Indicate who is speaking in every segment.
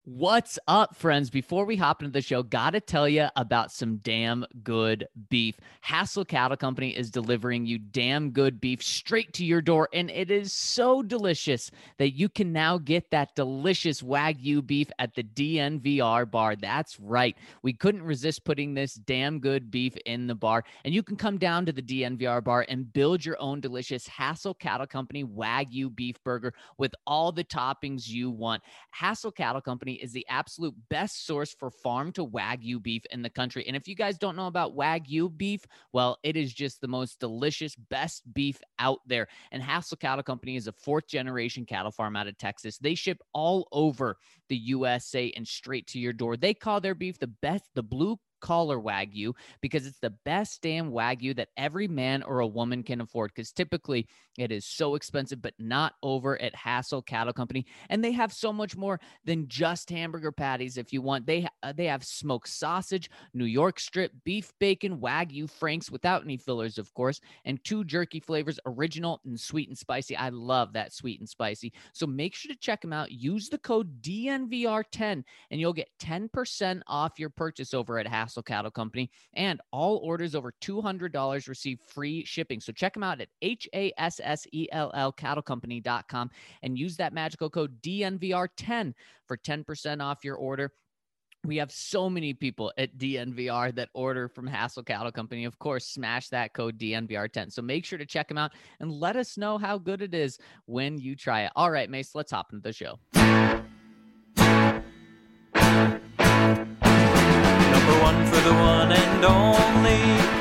Speaker 1: What's up, friends? Before we hop into the show, gotta tell you about some damn good beef. Hassel Cattle Company is delivering you damn good beef straight to your door, and it is so delicious that you can now get that delicious Wagyu beef at the DNVR bar. That's right. We couldn't resist putting this damn good beef in the bar, and you can come down to the DNVR bar and build your own delicious Hassel Cattle Company Wagyu beef burger with all the toppings you want. Hassel Cattle Company is the absolute best source for farm to Wagyu beef in the country. And if you guys don't know about Wagyu beef, well, it is just the most delicious, best beef out there. And Hassel Cattle Company is a fourth generation cattle farm out of Texas. They ship all over the USA and straight to your door. They call their beef the blue collar Wagyu because it's the best damn Wagyu that every man or a woman can afford, because typically it is so expensive, but not over at Hassel Cattle Company. And they have so much more than just hamburger patties. If you want, they have smoked sausage, New York strip, beef bacon, Wagyu franks without any fillers, of course, and 2 jerky flavors, original and sweet and spicy. I love that sweet and spicy. So make sure to check them out. Use the code DNVR10 and you'll get 10% off your purchase over at Hassel Cattle Company, and all orders over $200 receive free shipping. So check them out at HASSELL cattlecompany.com and use that magical code DNVR10 for 10% off your order. We have so many people at DNVR that order from Hassel Cattle Company. Of course, smash that code DNVR10. So make sure to check them out and let us know how good it is when you try it. All right, Mace, let's hop into the show.
Speaker 2: Number one for the one and only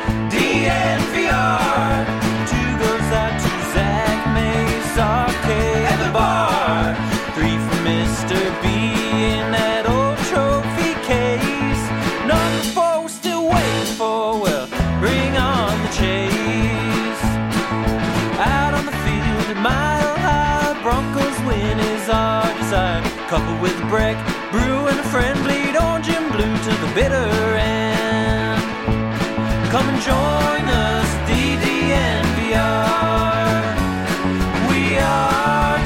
Speaker 2: DNVR. 2 goes out to Zach Mace, Arcade, and the bar. 3 for Mr. B in that old trophy case. Number 4 we're still waiting for, well, bring on the chase. Out on the field at Mile High, Broncos win is our desire. Coupled with Breck, Brew, and a friend, bleed orange and blue to the bitter end. Come and join us, DNVR. We are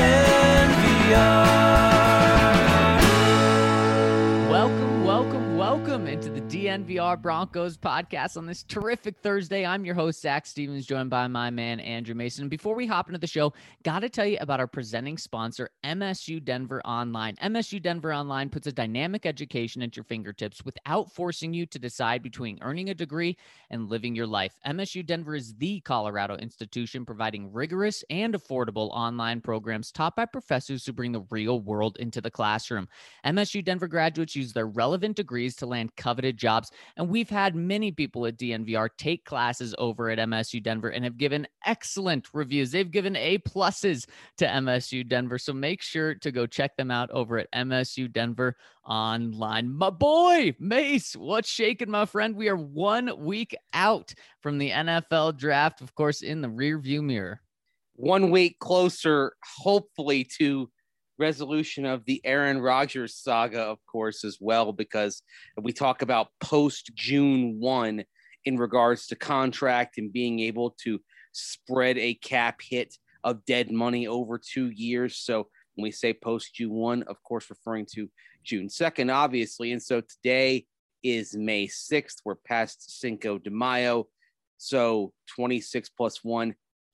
Speaker 2: DNVR.
Speaker 1: Welcome into the DNVR Broncos podcast on this terrific Thursday. I'm your host, Zach Stevens, joined by my man, Andrew Mason. And before we hop into the show, got to tell you about our presenting sponsor, MSU Denver Online. MSU Denver Online puts a dynamic education at your fingertips without forcing you to decide between earning a degree and living your life. MSU Denver is the Colorado institution providing rigorous and affordable online programs taught by professors who bring the real world into the classroom. MSU Denver graduates use their relevant degrees to land coveted jobs, and we've had many people at DNVR take classes over at MSU Denver and have given excellent reviews. They've given A+ to MSU Denver, so make sure to go check them out over at MSU Denver Online. My boy, Mace, what's shaking, my friend? We are 1 week out from the NFL draft, of course, in the rearview mirror.
Speaker 3: 1 week closer, hopefully, to resolution of the Aaron Rodgers saga, of course, as well, because we talk about post June 1 in regards to contract and being able to spread a cap hit of dead money over 2 years. So when we say post June 1, of course, referring to June 2nd, obviously. And so today is May 6th. We're past Cinco de Mayo. So 26 plus 1,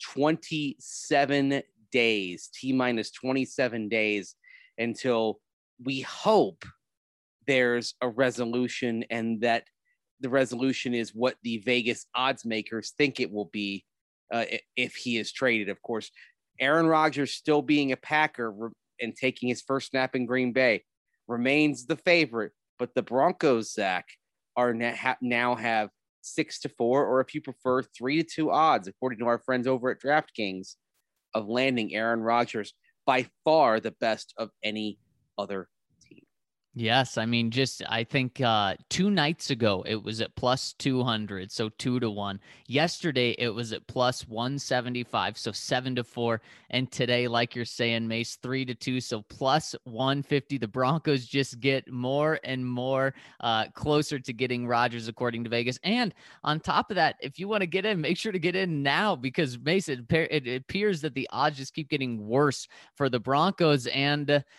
Speaker 3: 27 days, T-minus 27 days until we hope there's a resolution, and that the resolution is what the Vegas odds makers think it will be if he is traded. Of course, Aaron Rodgers still being a Packer and taking his first snap in Green Bay remains the favorite, but the Broncos, Zach, are now have 6-4, or if you prefer, 3-2 odds, according to our friends over at DraftKings, of landing Aaron Rodgers, by far the best of any other team.
Speaker 1: Yes, I mean, I think 2 nights ago it was at plus 200, so 2-1. Yesterday it was at plus 175, so 7-4. And today, like you're saying, Mace, 3-2, so plus 150. The Broncos just get more and more closer to getting Rodgers, according to Vegas. And on top of that, if you want to get in, make sure to get in now, because Mace, it appears that the odds just keep getting worse for the Broncos. And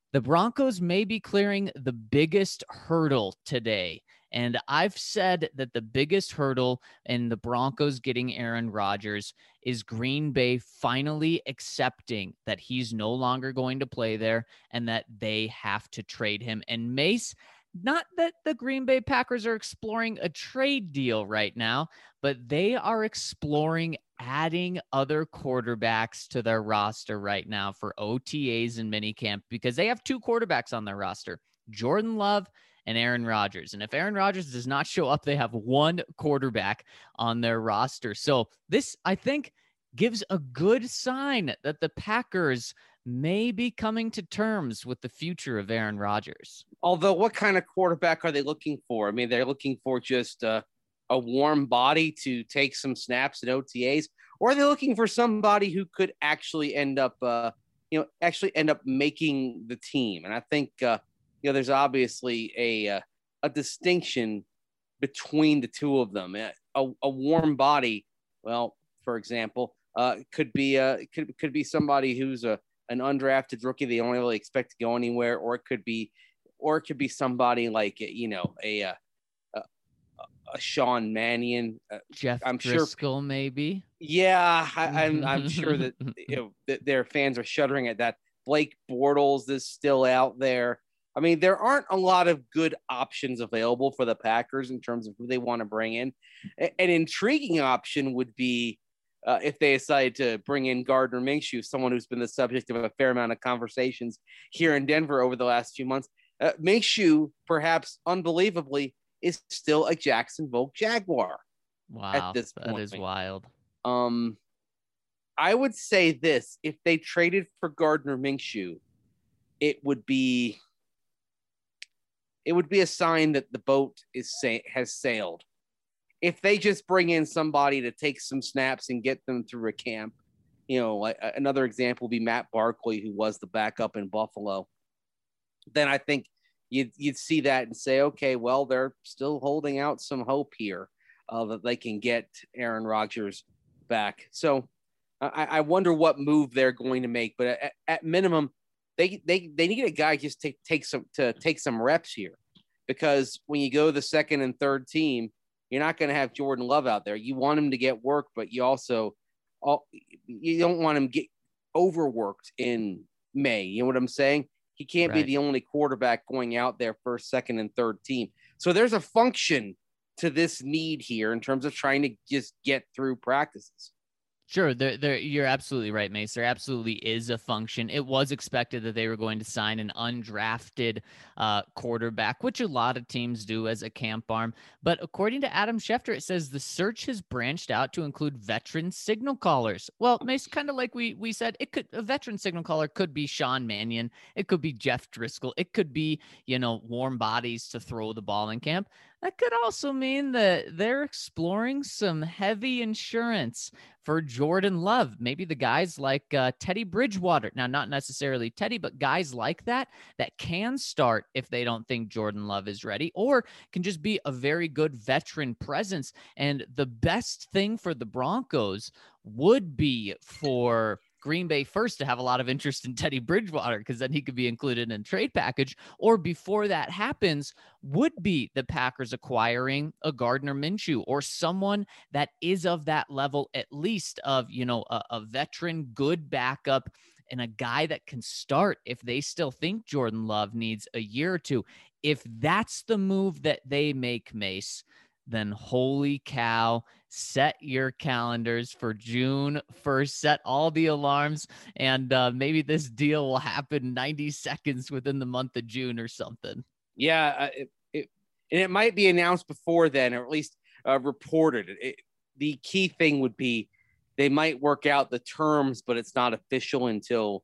Speaker 1: The Broncos may be clearing the biggest hurdle today. And I've said that the biggest hurdle in the Broncos getting Aaron Rodgers is Green Bay finally accepting that he's no longer going to play there and that they have to trade him. And Mace, not that the Green Bay Packers are exploring a trade deal right now, but they are exploring adding other quarterbacks to their roster right now for OTAs and minicamp because they have two quarterbacks on their roster, Jordan Love and Aaron Rodgers. And if Aaron Rodgers does not show up, they have one quarterback on their roster. So this, I think, gives a good sign that the Packers may be coming to terms with the future of Aaron Rodgers.
Speaker 3: Although, what kind of quarterback are they looking for? I mean, they're looking for just a warm body to take some snaps at OTAs, or are they looking for somebody who could actually end up making the team? And I think, there's obviously a distinction between the two of them. A warm body, well, for example, could be somebody who's an undrafted rookie they don't really expect to go anywhere, or it could be somebody like a Sean Mannion,
Speaker 1: Jeff
Speaker 3: I'm
Speaker 1: Driscoll,
Speaker 3: sure,
Speaker 1: maybe.
Speaker 3: Yeah, I'm sure that that their fans are shuddering at that. Blake Bortles is still out there. I mean, there aren't a lot of good options available for the Packers in terms of who they want to bring in. An intriguing option would be if they decide to bring in Gardner Minshew, someone who's been the subject of a fair amount of conversations here in Denver over the last few months. Minshew, perhaps unbelievably, is still a Jacksonville Jaguar.
Speaker 1: Wow,
Speaker 3: at this
Speaker 1: that
Speaker 3: point.
Speaker 1: is wild.
Speaker 3: I would say this: if they traded for Gardner Minshew, it would be a sign that the boat has sailed. If they just bring in somebody to take some snaps and get them through a camp, another example would be Matt Barkley, who was the backup in Buffalo. Then I think you'd see that and say, okay, well, they're still holding out some hope here that they can get Aaron Rodgers back. So I wonder what move they're going to make. But at minimum, they need a guy just to take some reps here, because when you go to the second and third team, you're not going to have Jordan Love out there. You want him to get work, but you also you don't want him to get overworked in May. You know what I'm saying? He can't be the only quarterback going out there first, second, and third team. So there's a function to this need here in terms of trying to just get through practices.
Speaker 1: Sure, you're absolutely right, Mace. There absolutely is a function. It was expected that they were going to sign an undrafted quarterback, which a lot of teams do as a camp arm. But according to Adam Schefter, it says the search has branched out to include veteran signal callers. Well, Mace, kind of like we said, a veteran signal caller could be Sean Mannion. It could be Jeff Driscoll. It could be, warm bodies to throw the ball in camp. That could also mean that they're exploring some heavy insurance for Jordan Love. Maybe the guys like Teddy Bridgewater. Now, not necessarily Teddy, but guys like that can start if they don't think Jordan Love is ready, or can just be a very good veteran presence. And the best thing for the Broncos would be for Green Bay first to have a lot of interest in Teddy Bridgewater, because then he could be included in a trade package, or before that happens would be the Packers acquiring a Gardner Minshew or someone that is of that level, at least of, a veteran, good backup, and a guy that can start if they still think Jordan Love needs a year or two. If that's the move that they make, Mace, then holy cow, set your calendars for June 1st, set all the alarms, and maybe this deal will happen 90 seconds within the month of June or something.
Speaker 3: Yeah, it might be announced before then, or at least reported. The key thing would be they might work out the terms, but it's not official until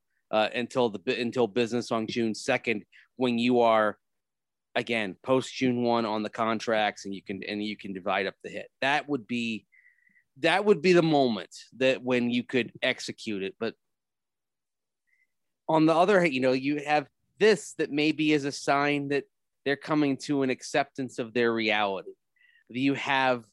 Speaker 3: business on June 2nd, when you are, again, post June 1 on the contracts, and you can divide up the hit. That would be the moment that when you could execute it. But on the other hand, you have this that maybe is a sign that they're coming to an acceptance of their reality. You have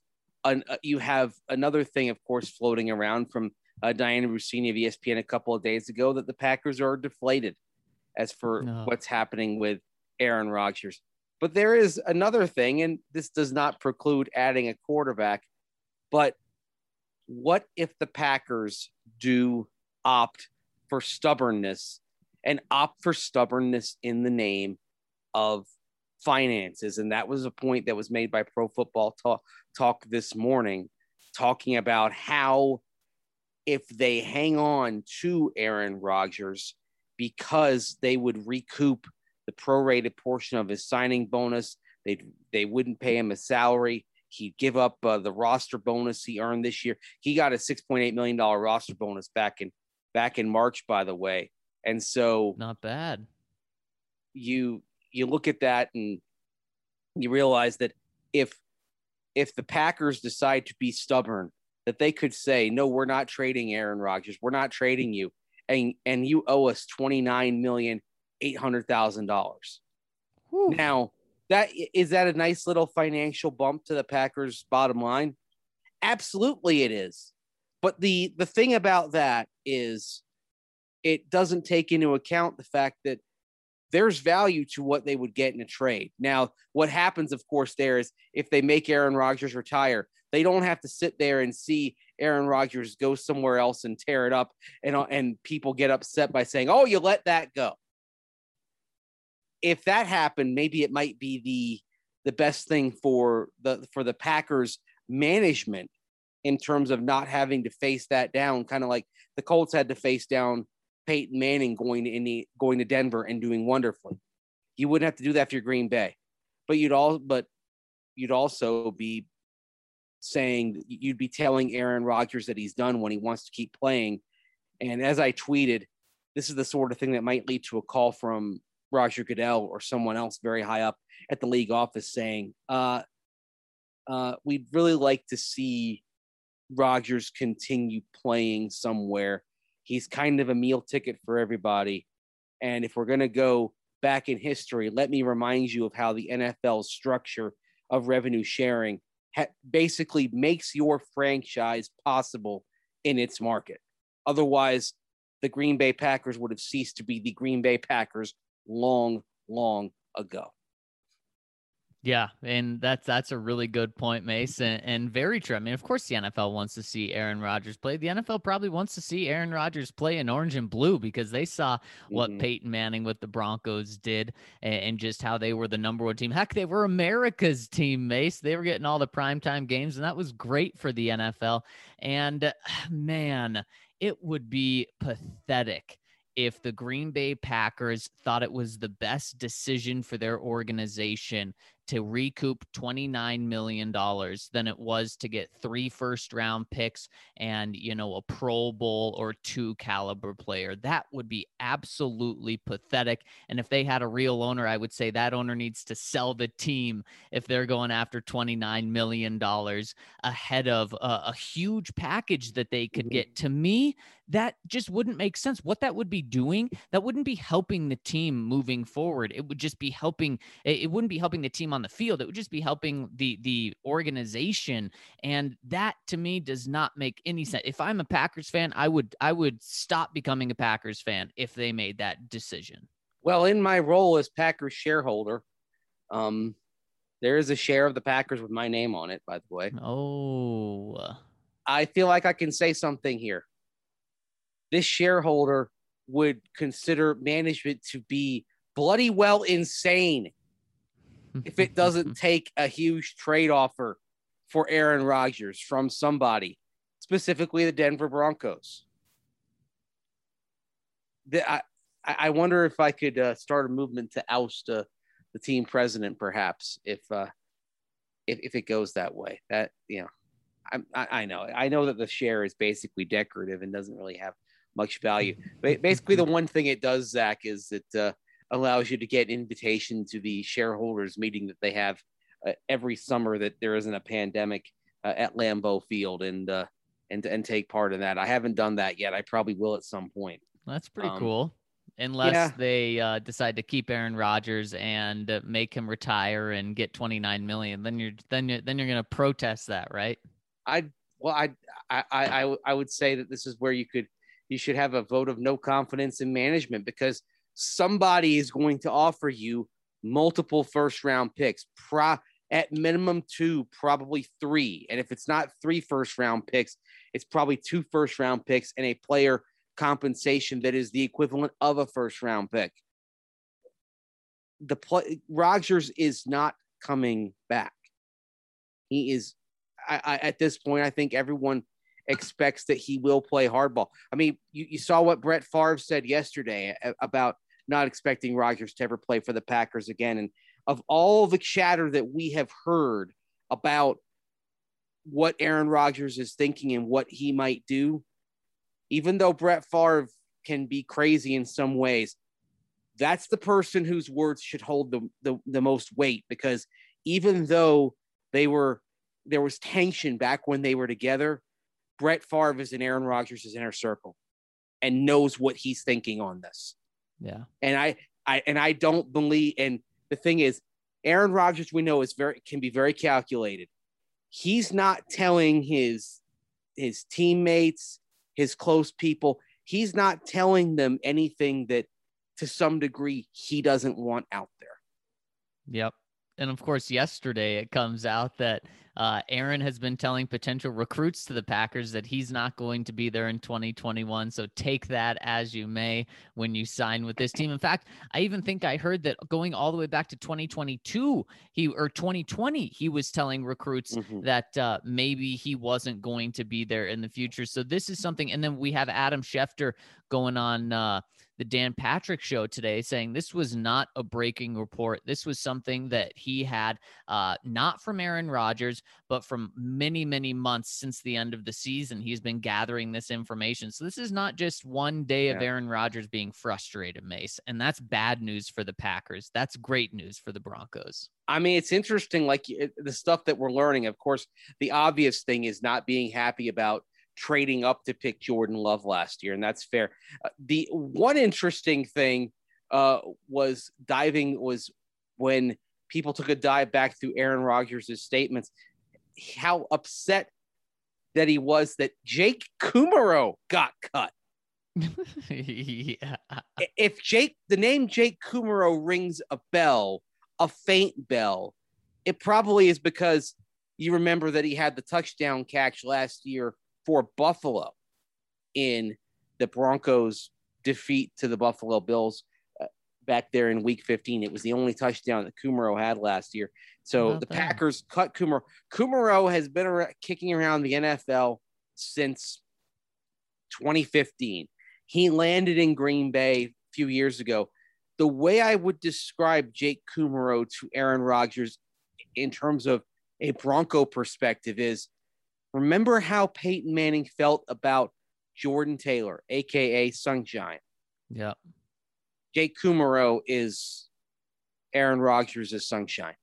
Speaker 3: another thing, of course, floating around from Diana Russini of ESPN a couple of days ago, that the Packers are deflated. as for
Speaker 1: No.
Speaker 3: what's happening with Aaron Rodgers. But there is another thing, and this does not preclude adding a quarterback, but what if the Packers do opt for stubbornness and opt for stubbornness in the name of finances? And that was a point that was made by Pro Football Talk this morning, talking about how if they hang on to Aaron Rodgers because they would recoup the prorated portion of his signing bonus, they wouldn't pay him a salary. He'd give up the roster bonus he earned this year. He got a $6.8 million roster bonus back in March, by the way. And so
Speaker 1: not bad.
Speaker 3: You look at that and you realize that if the Packers decide to be stubborn, that they could say, no, we're not trading Aaron Rodgers. We're not trading you. And you owe us $29,800,000. Now, is that a nice little financial bump to the Packers' bottom line? Absolutely it is. But the thing about that is it doesn't take into account the fact that there's value to what they would get in a trade. Now, what happens, of course, there is if they make Aaron Rodgers retire, they don't have to sit there and see Aaron Rodgers go somewhere else and tear it up, and people get upset by saying, oh, you let that go. If that happened, maybe it might be the best thing for the Packers management in terms of not having to face that down, kind of like the Colts had to face down Peyton Manning going to Denver and doing wonderfully. You wouldn't have to do that for your Green Bay, but you'd also be saying, you'd be telling Aaron Rodgers that he's done when he wants to keep playing. And as I tweeted, this is the sort of thing that might lead to a call from Roger Goodell or someone else very high up at the league office saying, we'd really like to see Rodgers continue playing somewhere. He's kind of a meal ticket for everybody. And if we're going to go back in history, let me remind you of how the NFL's structure of revenue sharing basically makes your franchise possible in its market. Otherwise, the Green Bay Packers would have ceased to be the Green Bay Packers long, long ago.
Speaker 1: Yeah, and that's a really good point, Mace, and very true. I mean, of course, the NFL wants to see Aaron Rodgers play. The NFL probably wants to see Aaron Rodgers play in orange and blue because they saw what Peyton Manning with the Broncos did and just how they were the number one team. Heck, they were America's team, Mace. They were getting all the primetime games, and that was great for the NFL. And, man, it would be pathetic if the Green Bay Packers thought it was the best decision for their organization to recoup $29 million than it was to get 3 first-round picks and, a Pro Bowl or 2 caliber player. That would be absolutely pathetic. And if they had a real owner, I would say that owner needs to sell the team if they're going after $29 million ahead of a huge package that they could get. To me, that just wouldn't make sense. What that would be doing, that wouldn't be helping the team moving forward. It would just be helping. It wouldn't be helping the team on the field. It would just be helping the organization. And that to me does not make any sense. If I'm a Packers fan, I would stop becoming a Packers fan if they made that decision.
Speaker 3: Well, in my role as Packers shareholder, there is a share of the Packers with my name on it, by the way.
Speaker 1: Oh,
Speaker 3: I feel like I can say something here. This shareholder would consider management to be bloody well insane if it doesn't take a huge trade offer for Aaron Rodgers from somebody, specifically the Denver Broncos. I wonder if I could start a movement to oust the team president, perhaps, if it goes that way. That, I know that the share is basically decorative and doesn't really have much value. But basically, the one thing it does, Zach, is it allows you to get invitation to the shareholders meeting that they have every summer that there isn't a pandemic at Lambeau Field, and take part in that. I haven't done that yet. I probably will at some point.
Speaker 1: That's pretty cool. Unless they decide to keep Aaron Rodgers and make him retire and get $29 million, then you're going to protest that, right?
Speaker 3: I would say that this is where you should have a vote of no confidence in management, because somebody is going to offer you multiple first-round picks, at minimum 2, probably 3. And if it's not 3 first-round picks, it's probably 2 first-round picks and a player compensation that is the equivalent of a first-round pick. Rodgers is not coming back. He is, at this point, I think everyone expects that he will play hardball. I mean, you saw what Brett Favre said yesterday about not expecting Rodgers to ever play for the Packers again. And of all the chatter that we have heard about what Aaron Rodgers is thinking and what he might do, even though Brett Favre can be crazy in some ways, that's the person whose words should hold the most weight, because even though there was tension back when they were together, Brett Favre is in Aaron Rodgers' inner circle and knows what he's thinking on this.
Speaker 1: Yeah.
Speaker 3: And I don't believe, and the thing is, Aaron Rodgers, we know, can be very calculated. He's not telling his teammates, his close people, he's not telling them anything that to some degree he doesn't want out there.
Speaker 1: Yep. And of course, yesterday it comes out that Aaron has been telling potential recruits to the Packers that he's not going to be there in 2021. So take that as you may when you sign with this team. In fact, I even think I heard that going all the way back to 2022, 2020, he was telling recruits that maybe he wasn't going to be there in the future. So this is something. And then we have Adam Schefter going on the Dan Patrick show today saying this was not a breaking report. This was something that he had not from Aaron Rodgers, but from many, many months since the end of the season. He's been gathering this information. So this is not just one day of Aaron Rodgers being frustrated, Mace. And that's bad news for the Packers. That's great news for the Broncos.
Speaker 3: I mean, it's interesting, like the stuff that we're learning. Of course, the obvious thing is not being happy about trading up to pick Jordan Love last year, and that's fair. The one interesting thing was when people took a dive back through Aaron Rodgers' statements, how upset that he was that Jake Kumerow got cut.
Speaker 1: Yeah.
Speaker 3: If the name Jake Kumerow rings a bell, a faint bell, it probably is because you remember that he had the touchdown catch last year for Buffalo in the Broncos' defeat to the Buffalo Bills back there in Week 15. It was the only touchdown that Kumerow had last year. So the Packers cut Kumerow. Kumerow has been kicking around the NFL since 2015. He landed in Green Bay a few years ago. The way I would describe Jake Kumerow to Aaron Rodgers in terms of a Bronco perspective is, remember how Peyton Manning felt about Jordan Taylor, a.k.a. Sunshine?
Speaker 1: Yeah.
Speaker 3: Jake Kumerow is Aaron Rodgers' Sunshine.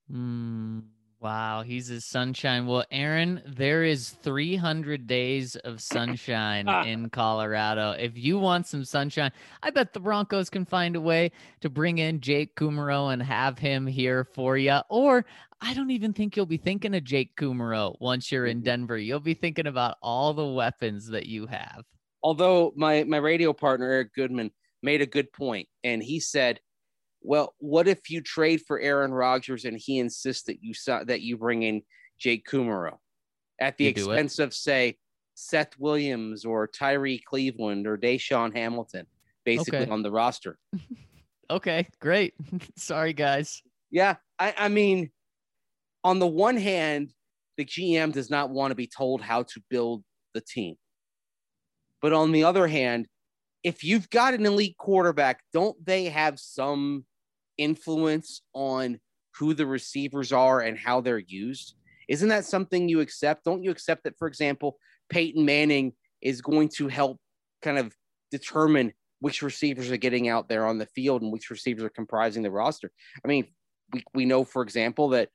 Speaker 1: Wow, he's his sunshine. Well, Aaron, there is 300 days of sunshine in Colorado. If you want some sunshine, I bet the Broncos can find a way to bring in Jake Kumerow and have him here for you. Or I don't even think you'll be thinking of Jake Kumerow once you're in Denver. You'll be thinking about all the weapons that you have.
Speaker 3: Although my radio partner, Eric Goodman, made a good point, and he said, well, what if you trade for Aaron Rodgers and he insists that you bring in Jake Kumerow at the expense of, say, Seth Williams or Tyree Cleveland or Deshaun Hamilton, basically on the roster?
Speaker 1: Okay, great. Sorry, guys.
Speaker 3: Yeah, I mean, on the one hand, the GM does not want to be told how to build the team. But on the other hand, if you've got an elite quarterback, don't they have some influence on who the receivers are and how they're used? Isn't that something you accept? Don't you accept that, for example, Peyton Manning is going to help kind of determine which receivers are getting out there on the field and which receivers are comprising the roster? I mean, we know, for example, that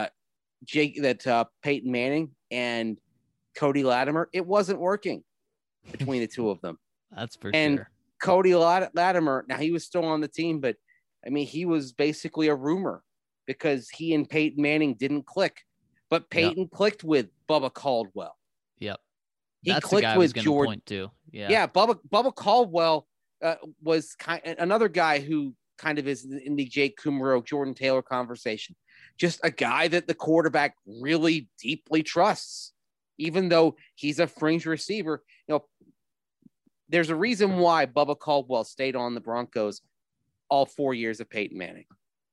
Speaker 3: Peyton Manning and Cody Latimer, it wasn't working between the two of them.
Speaker 1: That's for
Speaker 3: and
Speaker 1: sure.
Speaker 3: Cody Latimer, now he was still on the team, but I mean, he was basically a rumor because he and Peyton Manning didn't click. But Peyton clicked with Bubba Caldwell.
Speaker 1: Yep.
Speaker 3: He
Speaker 1: That's
Speaker 3: clicked
Speaker 1: the guy
Speaker 3: with
Speaker 1: I was
Speaker 3: Jordan.
Speaker 1: point to.
Speaker 3: Yeah, Bubba Caldwell was another guy who kind of is in the Jake Kumerow, Jordan Taylor conversation. Just a guy that the quarterback really deeply trusts, even though he's a fringe receiver. There's a reason why Bubba Caldwell stayed on the Broncos all 4 years of Peyton Manning.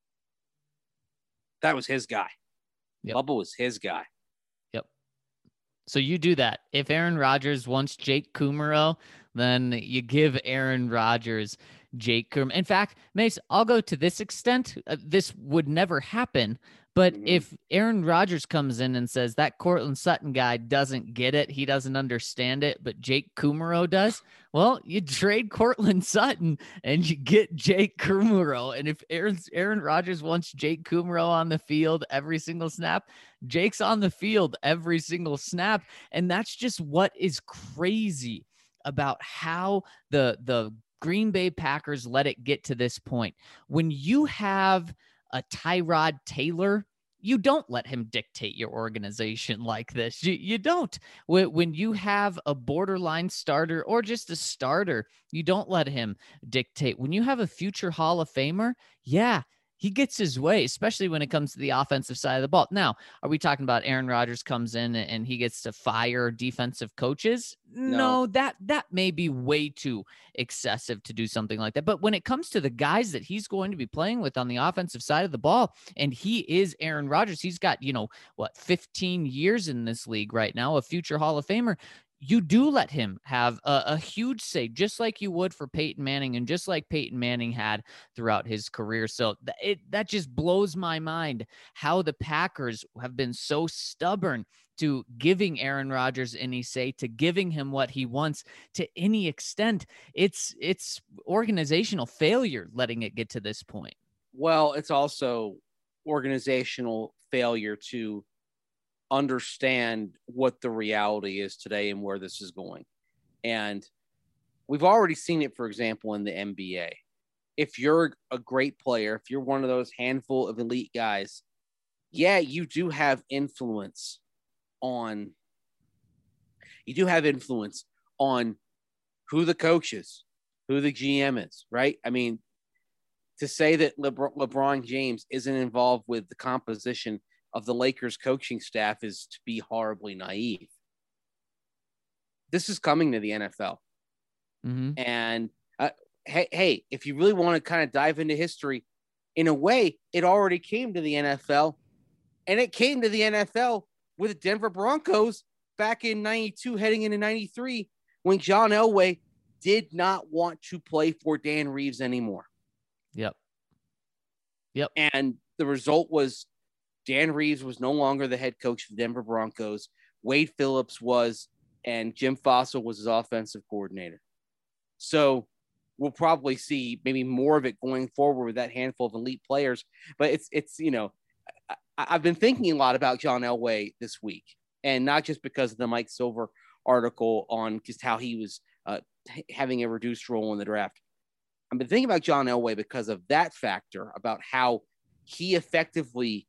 Speaker 3: That was his guy. Yep. Bubba was his guy.
Speaker 1: Yep. So you do that. If Aaron Rodgers wants Jake Kumerow, then you give Aaron Rodgers Jake Kumerow. In fact, Mace, I'll go to this extent. This would never happen. But if Aaron Rodgers comes in and says that Courtland Sutton guy doesn't get it, he doesn't understand it, but Jake Kumerow does, well, you trade Courtland Sutton and you get Jake Kumerow. And if Aaron Rodgers wants Jake Kumerow on the field every single snap, Jake's on the field every single snap. And that's just what is crazy about how the Green Bay Packers let it get to this point. When you have a Tyrod Taylor, you don't let him dictate your organization like this. You don't. When you have a borderline starter or just a starter, you don't let him dictate. When you have a future Hall of Famer, yeah, he gets his way, especially when it comes to the offensive side of the ball. Now, are we talking about Aaron Rodgers comes in and he gets to fire defensive coaches? No, that may be way too excessive to do something like that. But when it comes to the guys that he's going to be playing with on the offensive side of the ball, and he is Aaron Rodgers, he's got, 15 years in this league right now, a future Hall of Famer. You do let him have a huge say, just like you would for Peyton Manning and just like Peyton Manning had throughout his career. So that just blows my mind how the Packers have been so stubborn to giving Aaron Rodgers any say, to giving him what he wants to any extent. It's organizational failure letting it get to this point.
Speaker 3: Well, it's also organizational failure to understand what the reality is today and where this is going. And we've already seen it, for example, in the NBA. If you're a great player, if you're one of those handful of elite guys, yeah, you do have influence on who the coach is, who the GM is, right? I mean, to say that LeBron James isn't involved with the composition of the Lakers coaching staff is to be horribly naive. This is coming to the NFL. Mm-hmm. And hey, if you really want to kind of dive into history, in a way, it already came to the NFL. And it came to the NFL with the Denver Broncos back in 92, heading into 93, when John Elway did not want to play for Dan Reeves anymore.
Speaker 1: Yep.
Speaker 3: And the result was Dan Reeves was no longer the head coach of the Denver Broncos. Wade Phillips was, and Jim Fossil was his offensive coordinator. So we'll probably see maybe more of it going forward with that handful of elite players. But it's I've been thinking a lot about John Elway this week, and not just because of the Mike Silver article on just how he was having a reduced role in the draft. I've been thinking about John Elway because of that factor, about how he effectively,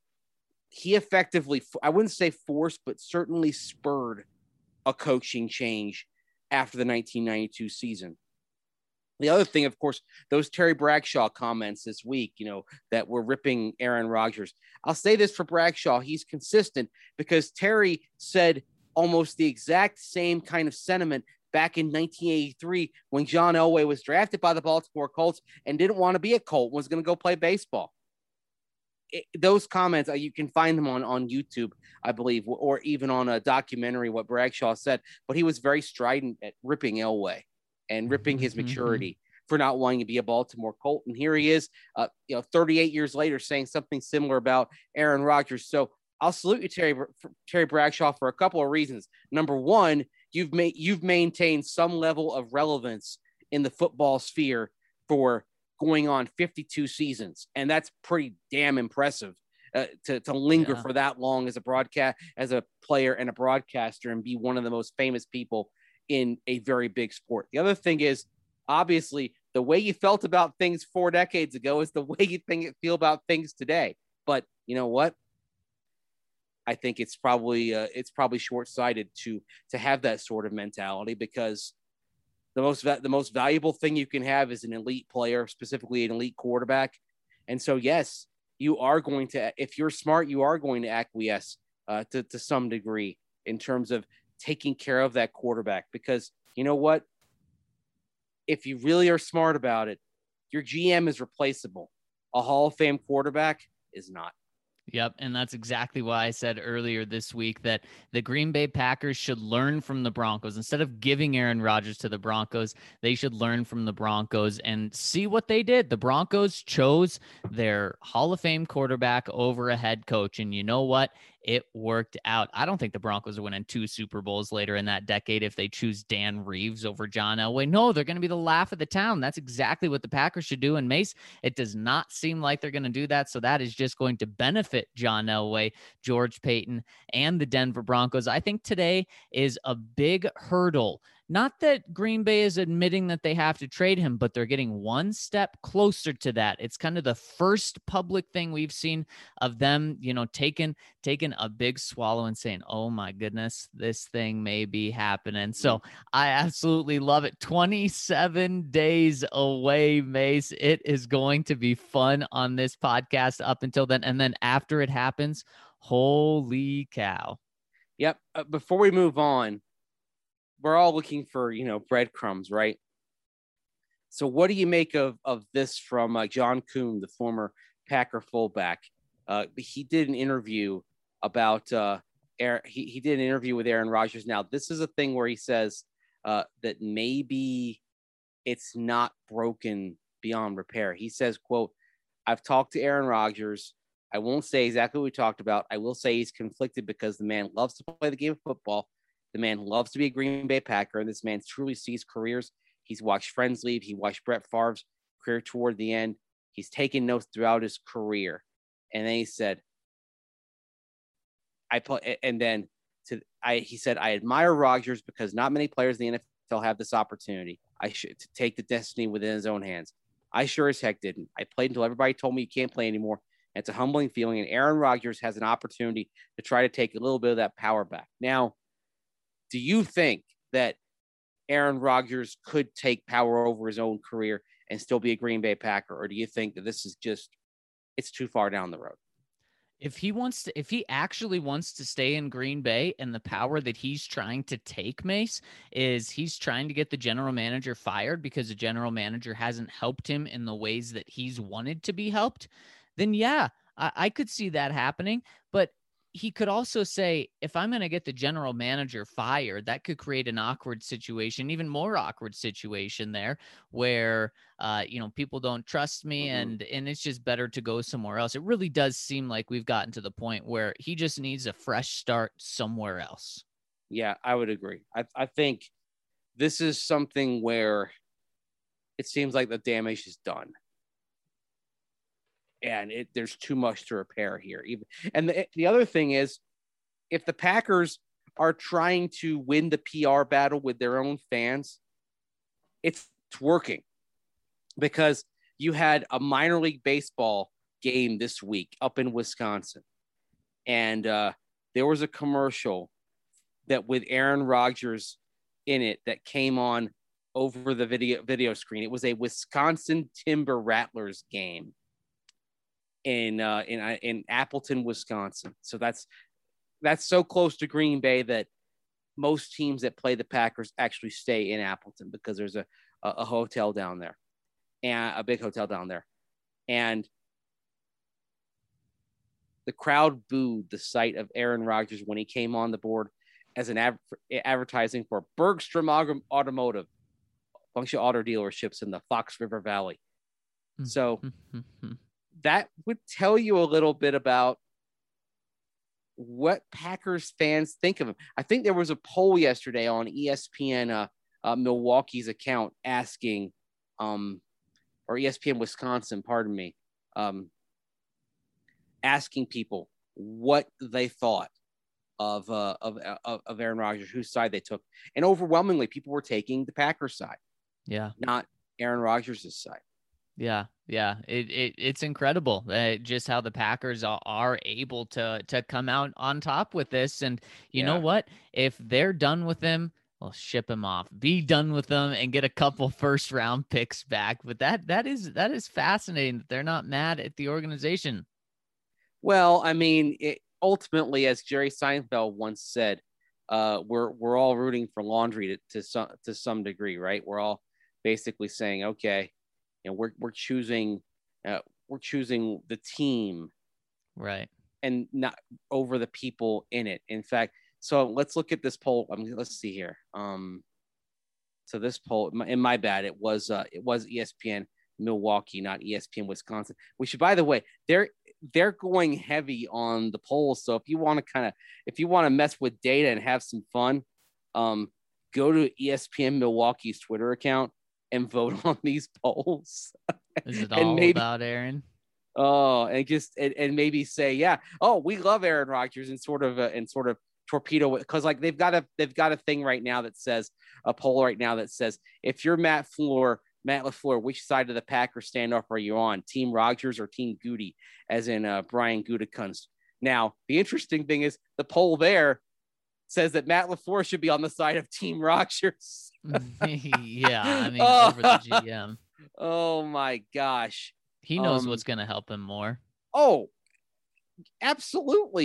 Speaker 3: I wouldn't say forced, but certainly spurred a coaching change after the 1992 season. The other thing, of course, those Terry Bradshaw comments this week, that were ripping Aaron Rodgers. I'll say this for Bradshaw. He's consistent because Terry said almost the exact same kind of sentiment back in 1983 when John Elway was drafted by the Baltimore Colts and didn't want to be a Colt, was going to go play baseball. Those comments, you can find them on YouTube, I believe, or even on a documentary, what Bradshaw said. But he was very strident at ripping Elway and ripping his maturity for not wanting to be a Baltimore Colt. And here he is, 38 years later, saying something similar about Aaron Rodgers. So I'll salute you, Terry Bradshaw, for a couple of reasons. Number one, you've maintained some level of relevance in the football sphere for going on 52 seasons. And that's pretty damn impressive to linger for that long as a player and a broadcaster and be one of the most famous people in a very big sport. The other thing is, obviously, the way you felt about things 4 decades ago is the way you feel about things today. But you know what? I think it's probably short-sighted to have that sort of mentality, because The most valuable thing you can have is an elite player, specifically an elite quarterback. And so, yes, you are going to, if you're smart, you are going to acquiesce to some degree in terms of taking care of that quarterback. Because you know what? If you really are smart about it, your GM is replaceable. A Hall of Fame quarterback is not.
Speaker 1: Yep. And that's exactly why I said earlier this week that the Green Bay Packers should learn from the Broncos. Instead of giving Aaron Rodgers to the Broncos, they should learn from the Broncos and see what they did. The Broncos chose their Hall of Fame quarterback over a head coach. And you know what? It worked out. I don't think the Broncos are winning 2 Super Bowls later in that decade if they choose Dan Reeves over John Elway. No, they're going to be the laugh of the town. That's exactly what the Packers should do. And Mace, it does not seem like they're going to do that. So that is just going to benefit John Elway, George Paton, and the Denver Broncos. I think today is a big hurdle. Not that Green Bay is admitting that they have to trade him, but they're getting one step closer to that. It's kind of the first public thing we've seen of them, taking a big swallow and saying, oh my goodness, this thing may be happening. So I absolutely love it. 27 days away, Mace. It is going to be fun on this podcast up until then. And then after it happens, holy cow.
Speaker 3: Yep. Before we move on, we're all looking for, breadcrumbs, right? So what do you make of this from John Kuhn, the former Packer fullback? He did an interview about he did an interview with Aaron Rodgers. Now, this is a thing where he says that maybe it's not broken beyond repair. He says, quote, I've talked to Aaron Rodgers. I won't say exactly what we talked about. I will say he's conflicted because the man loves to play the game of football. The man loves to be a Green Bay Packer, and this man truly sees careers. He's watched friends leave. He watched Brett Favre's career toward the end. He's taken notes throughout his career. And then he said, he said, I admire Rodgers because not many players in the NFL have this opportunity. To take the destiny within his own hands. I sure as heck didn't. I played until everybody told me you can't play anymore. And it's a humbling feeling. And Aaron Rodgers has an opportunity to try to take a little bit of that power back. Now, do you think that Aaron Rodgers could take power over his own career and still be a Green Bay Packer? Or do you think that this is it's too far down the road?
Speaker 1: If he actually wants to stay in Green Bay, and the power that he's trying to take, Mace, is he's trying to get the general manager fired because the general manager hasn't helped him in the ways that he's wanted to be helped, then yeah, I could see that happening. But he could also say, if I'm going to get the general manager fired, that could create an awkward situation, even more awkward situation there where, people don't trust me and it's just better to go somewhere else. It really does seem like we've gotten to the point where he just needs a fresh start somewhere else.
Speaker 3: Yeah, I would agree. I think this is something where it seems like the damage is done. And there's too much to repair here. And the other thing is, if the Packers are trying to win the PR battle with their own fans, it's working. Because you had a minor league baseball game this week up in Wisconsin. And there was a commercial that with Aaron Rodgers in it that came on over the video screen. It was a Wisconsin Timber Rattlers game in Appleton, Wisconsin. So that's so close to Green Bay that most teams that play the Packers actually stay in Appleton because there's a hotel down there, and a big hotel down there. And the crowd booed the sight of Aaron Rodgers when he came on the board as an advertising for Bergstrom Automotive, a bunch of auto dealerships in the Fox River Valley. So that would tell you a little bit about what Packers fans think of him. I think there was a poll yesterday on ESPN Milwaukee's account asking, or ESPN Wisconsin, pardon me, asking people what they thought of Aaron Rodgers, whose side they took, and overwhelmingly people were taking the Packers side, not Aaron Rodgers' side.
Speaker 1: Yeah. It's incredible just how the Packers are able to come out on top with this. And you know what? If they're done with him, Well, ship him off. Be done with them and get a couple first round picks back. But that is fascinating that they're not mad at the organization.
Speaker 3: Well, I mean, ultimately, as Jerry Seinfeld once said, we're all rooting for laundry to some degree, right? We're all basically saying, okay, we're choosing the team,
Speaker 1: right,
Speaker 3: and not over the people in it. In fact, so let's look at this poll. Let's see here. So this poll, in my bad, it was ESPN Milwaukee, not ESPN Wisconsin. We should, by the way, they're going heavy on the polls. So if you want to mess with data and have some fun, go to ESPN Milwaukee's Twitter account and vote on these polls.
Speaker 1: Is it all about Aaron?
Speaker 3: Oh, and maybe say, yeah, oh, we love Aaron Rodgers, and sort of torpedo, because like they've got a thing right now that says, a poll right now that says, if you're Matt LaFleur, which side of the Packers standoff are you on? Team Rodgers or Team Goody, as in Brian Gutekunst. Now, the interesting thing is the poll there says that Matt LaFleur should be on the side of Team Rodgers.
Speaker 1: Yeah, I mean, over the GM.
Speaker 3: Oh my gosh.
Speaker 1: He knows what's going to help him more. Oh,
Speaker 3: absolutely.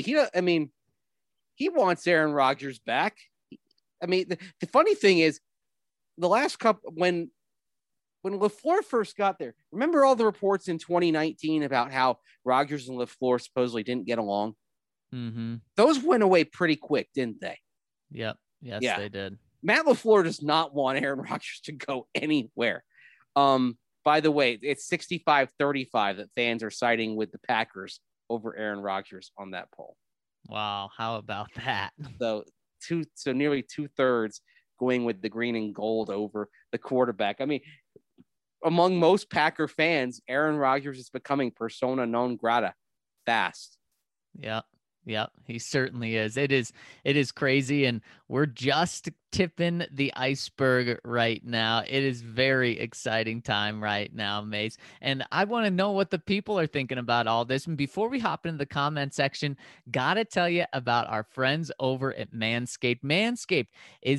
Speaker 3: He wants Aaron Rodgers back. I mean, the funny thing is, the last couple, when LaFleur first got there, remember all the reports in 2019 about how Rodgers and LaFleur supposedly didn't get along?
Speaker 1: Mm-hmm.
Speaker 3: Those went away pretty quick, didn't they?
Speaker 1: Yep. Yes,
Speaker 3: yeah.
Speaker 1: They did.
Speaker 3: Matt LaFleur does not want Aaron Rodgers to go anywhere. By the way, it's 65-35 that fans are siding with the Packers over Aaron Rodgers on that poll.
Speaker 1: Wow. How about that?
Speaker 3: So nearly 2/3 going with the green and gold over the quarterback. I mean, among most Packer fans, Aaron Rodgers is becoming persona non grata fast.
Speaker 1: Yep, he certainly is. It is crazy, and we're just tipping the iceberg right now. It is very exciting time right now, Mace. And I want to know what the people are thinking about all this. And before we hop into the comment section, gotta tell you about our friends over at Manscaped. Manscaped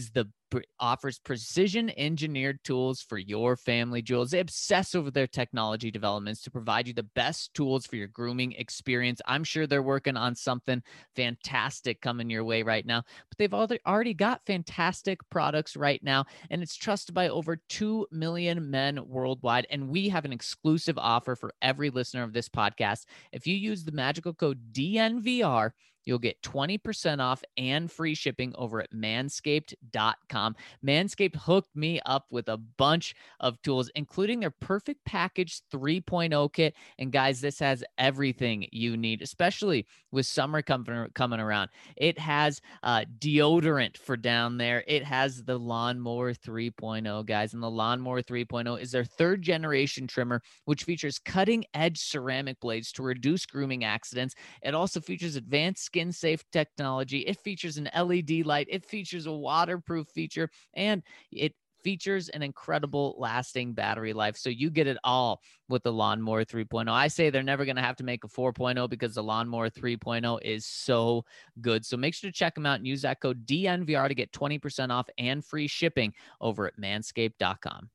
Speaker 1: offers precision engineered tools for your family jewels. They obsess over their technology developments to provide you the best tools for your grooming experience. I'm sure they're working on something fantastic coming your way right now, but they've already got fantastic products right now, and it's trusted by over 2 million men worldwide. And we have an exclusive offer for every listener of this podcast. If you use the magical code DNVR, you'll get 20% off and free shipping over at manscaped.com. Manscaped hooked me up with a bunch of tools, including their Perfect Package 3.0 kit. And guys, this has everything you need, especially with summer coming around. It has deodorant for down there. It has the Lawnmower 3.0, guys. And the Lawnmower 3.0 is their 3rd generation trimmer, which features cutting edge ceramic blades to reduce grooming accidents. It also features advanced skin safe technology. It features an LED light. It features a waterproof feature, and it features an incredible lasting battery life. So you get it all with the Lawnmower 3.0. I say they're never going to have to make a 4.0 because the Lawnmower 3.0 is so good. So make sure to check them out and use that code DNVR to get 20% off and free shipping over at manscaped.com.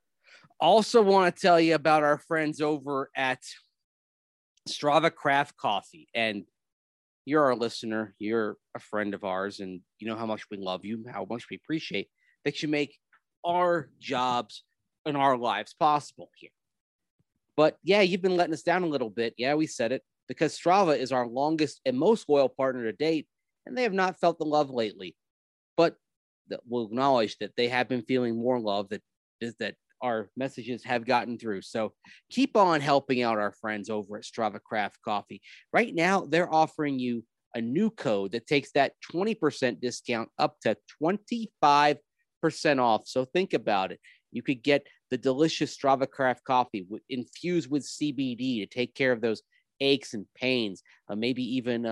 Speaker 3: Also want to tell you about our friends over at Strava Craft Coffee. And you're our listener, you're a friend of ours, and you know how much we love you, how much we appreciate that you make our jobs and our lives possible here. But yeah, you've been letting us down a little bit. Yeah, we said it, because Strava is our longest and most loyal partner to date, and they have not felt the love lately. But we'll acknowledge that they have been feeling more love, that our messages have gotten through. So keep on helping out our friends over at Strava Craft Coffee. Right now, they're offering you a new code that takes that 20% discount up to 25% off. So think about it. You could get the delicious Strava Craft Coffee infused with CBD to take care of those aches and pains, maybe even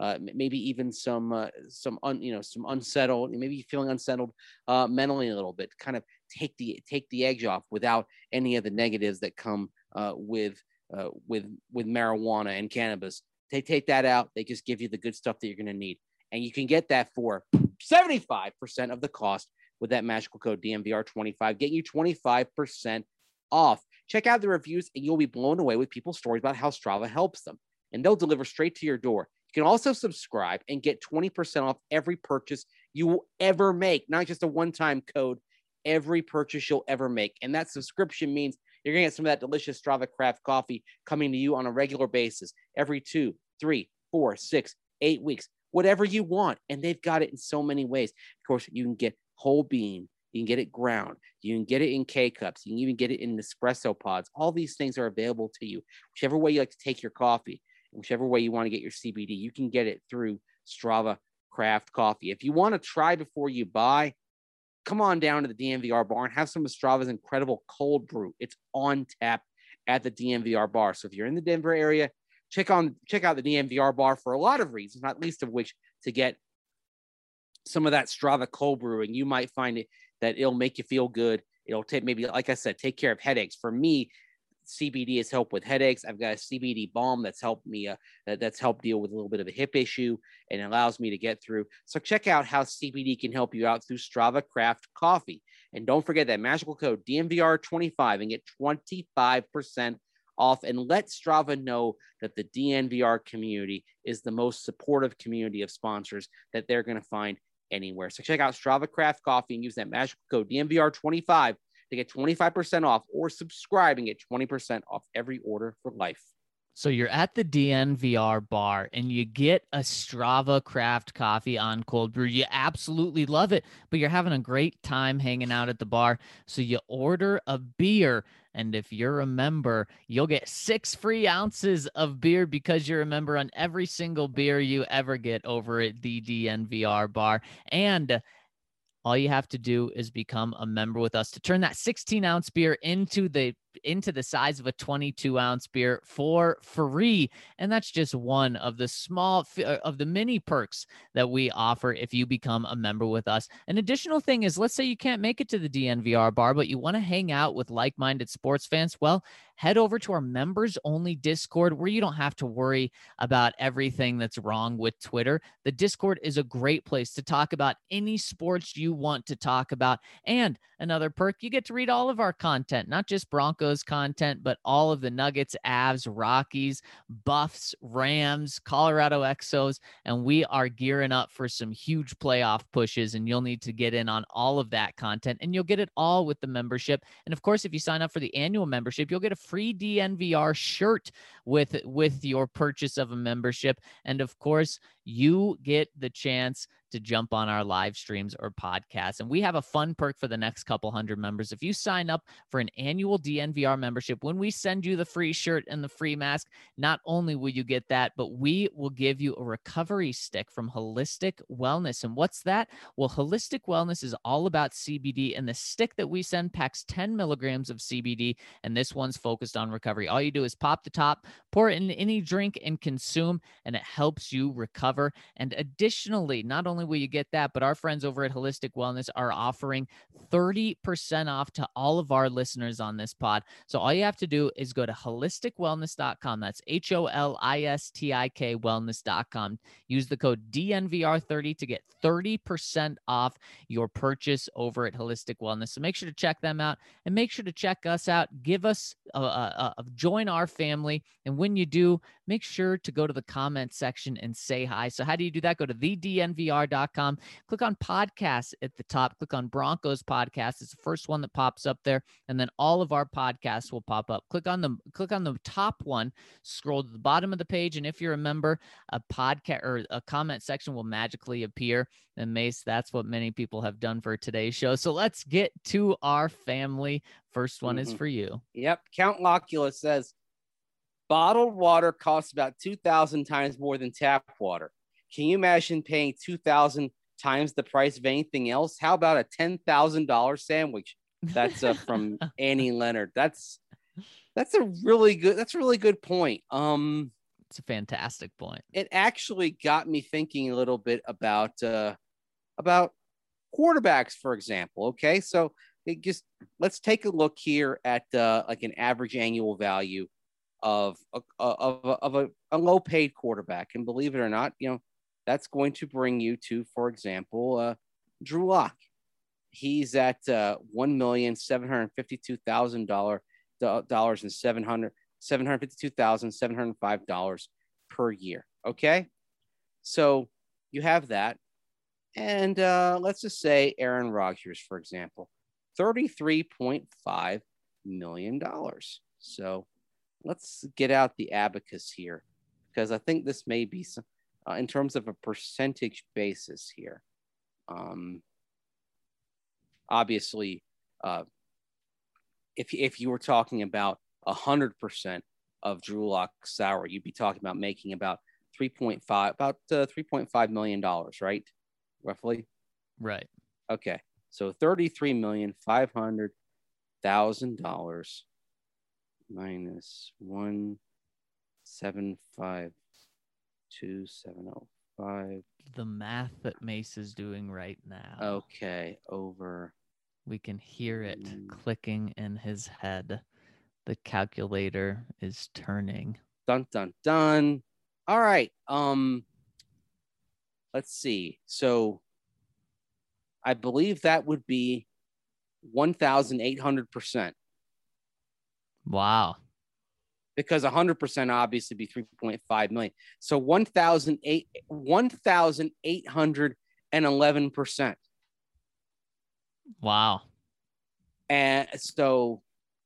Speaker 3: some unsettled, maybe feeling unsettled mentally a little bit, kind of take the edge off without any of the negatives that come with marijuana and cannabis. Take that out. They just give you the good stuff that you're going to need, and you can get that for 75% of the cost with that magical code DNVR25, getting you 25% off. Check out the reviews and you'll be blown away with people's stories about how Strava helps them. And they'll deliver straight to your door. You can also subscribe and get 20% off every purchase you will ever make, not just a one-time code, every purchase you'll ever make. And that subscription means you're going to get some of that delicious Strava craft coffee coming to you on a regular basis every 2, 3, 4, 6, 8 weeks, whatever you want. And they've got it in so many ways. Of course, you can get whole bean, you can get it ground, you can get it in K-cups, you can even get it in espresso pods. All these things are available to you. Whichever way you like to take your coffee, whichever way you want to get your CBD, you can get it through Strava Craft Coffee. If you want to try before you buy, come on down to the DNVR bar and have some of Strava's incredible cold brew. It's on tap at the DNVR bar. So if you're in the Denver area, check out the DNVR bar for a lot of reasons, not least of which to get some of that Strava cold brewing. You might find it that it'll make you feel good. It'll take, maybe, like I said, take care of headaches. For me, CBD has helped with headaches. I've got a CBD balm that's helped me, that's helped deal with a little bit of a hip issue and allows me to get through. So check out how CBD can help you out through Strava Craft Coffee. And don't forget that magical code DNVR25 and get 25% off, and let Strava know that the DNVR community is the most supportive community of sponsors that they're going to find anywhere. So check out Strava Craft Coffee and use that magical code DNVR25 to get 25% off, or subscribe and get 20% off every order for life.
Speaker 1: So you're at the DNVR bar and you get a Strava Craft Coffee on cold brew. You absolutely love it, but you're having a great time hanging out at the bar. So you order a beer, and if you're a member, you'll get 6 free ounces of beer because you're a member on every single beer you ever get over at the DNVR bar. And all you have to do is become a member with us to turn that 16-ounce beer into the size of a 22-ounce beer for free. And that's just one of the many perks that we offer if you become a member with us. An additional thing is, let's say you can't make it to the DNVR bar, but you want to hang out with like-minded sports fans. Well, head over to our members only Discord, where you don't have to worry about everything that's wrong with Twitter. The Discord is a great place to talk about any sports you want to talk about. And another perk, you get to read all of our content, not just Broncos content, but all of the Nuggets, Avs, Rockies, Buffs, Rams, Colorado Exos. And we are gearing up for some huge playoff pushes, and you'll need to get in on all of that content, and you'll get it all with the membership. And of course, if you sign up for the annual membership, you'll get a free DNVR shirt with your purchase of a membership. And of course, you get the chance to jump on our live streams or podcasts. And we have a fun perk for the next couple hundred members. If you sign up for an annual DNVR membership, when we send you the free shirt and the free mask, not only will you get that, but we will give you a recovery stick from Holistic Wellness. And what's that? Well, Holistic Wellness is all about CBD, and the stick that we send packs 10 milligrams of CBD, and this one's focused on recovery. All you do is pop the top, pour it in any drink, and consume, and it helps you recover. And additionally, not only will you get that, but our friends over at Holistic Wellness are offering 30% off to all of our listeners on this pod. So all you have to do is go to holisticwellness.com. That's HOLISTIK wellness.com. Use the code DNVR30 to get 30% off your purchase over at Holistic Wellness. So make sure to check them out, and make sure to check us out. Give us join our family. And when you do, make sure to go to the comment section and say hi. So how do you do that? Go to thednvr.com, click on podcasts at the top, click on Broncos podcast. It's the first one that pops up there. And then all of our podcasts will pop up. Click on the top one, scroll to the bottom of the page. And if you're a member, a podcast or a comment section will magically appear. And Mace, that's what many people have done for today's show. So let's get to our family. First one is for you.
Speaker 3: Yep. Count Locula says, bottled water costs about 2,000 times more than tap water. Can you imagine paying 2,000 times the price of anything else? How about a $10,000 sandwich? That's from Annie Leonard. That's a really good point.
Speaker 1: It's a fantastic point.
Speaker 3: It actually got me thinking a little bit about quarterbacks, for example. Okay, so let's take a look here at like an average annual value of a low paid quarterback, and believe it or not, that's going to bring you to, for example, Drew Lock. He's at $1,752,000 and $752,705 per year. Okay, so you have that, and let's just say Aaron Rodgers, for example, $33.5 million. So let's get out the abacus here, because I think this may be some, in terms of a percentage basis here. Obviously, if you were talking about 100% of Drew Lock's salary, you'd be talking about making about $3.5 million, right? Roughly.
Speaker 1: Right.
Speaker 3: Okay. So $33,500,000 minus 175,270.
Speaker 1: The math that Mace is doing right now.
Speaker 3: Okay, over.
Speaker 1: We can hear it clicking in his head. The calculator is turning.
Speaker 3: Dun dun dun. All right. Let's see. So I believe that would be 1,800%.
Speaker 1: Wow.
Speaker 3: Because 100% obviously be 3.5 million. So 1,811%.
Speaker 1: Wow.
Speaker 3: And so,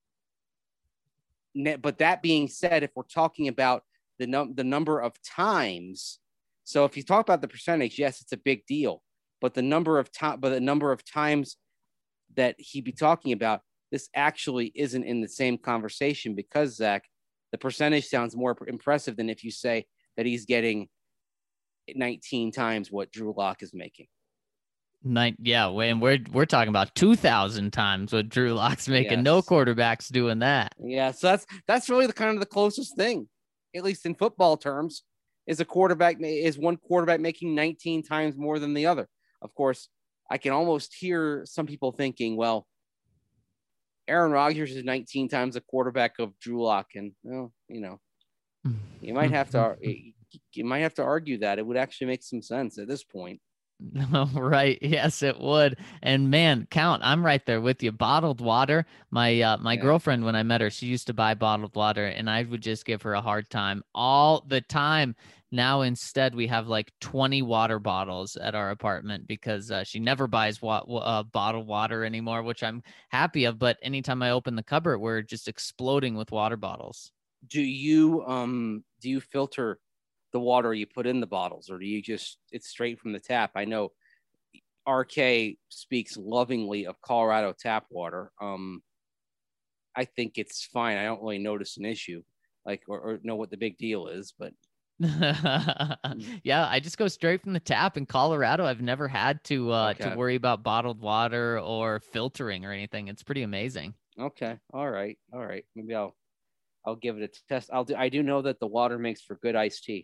Speaker 3: but that being said, if we're talking about the number of times, so if you talk about the percentage, yes, it's a big deal. But the number of times that he'd be talking about, this actually isn't in the same conversation, because Zach, the percentage sounds more impressive than if you say that he's getting 19 times what Drew Lock is making.
Speaker 1: Yeah, and we're talking about 2,000 times what Drew Lock's making.
Speaker 3: Yes.
Speaker 1: No quarterback's doing that.
Speaker 3: Yeah, so that's really the closest thing, at least in football terms, is one quarterback making 19 times more than the other. Of course, I can almost hear some people thinking, well, Aaron Rodgers is 19 times the quarterback of Drew Lock, and well, you might have to argue that. It would actually make some sense at this point.
Speaker 1: Right. Yes, it would. And man, Count, I'm right there with you. Bottled water. My girlfriend, when I met her, she used to buy bottled water, and I would just give her a hard time all the time. Now, instead, we have like 20 water bottles at our apartment because she never buys bottled water anymore, which I'm happy of. But anytime I open the cupboard, we're just exploding with water bottles.
Speaker 3: Do you filter the water you put in the bottles, or do you it's straight from the tap? I know RK speaks lovingly of Colorado tap water. I think it's fine. I don't really notice an issue, or know what the big deal is, but
Speaker 1: yeah, I just go straight from the tap in Colorado. I've never had to worry about bottled water or filtering or anything. It's pretty amazing.
Speaker 3: Okay. All right. Maybe I'll give it a test. I do know that the water makes for good iced tea.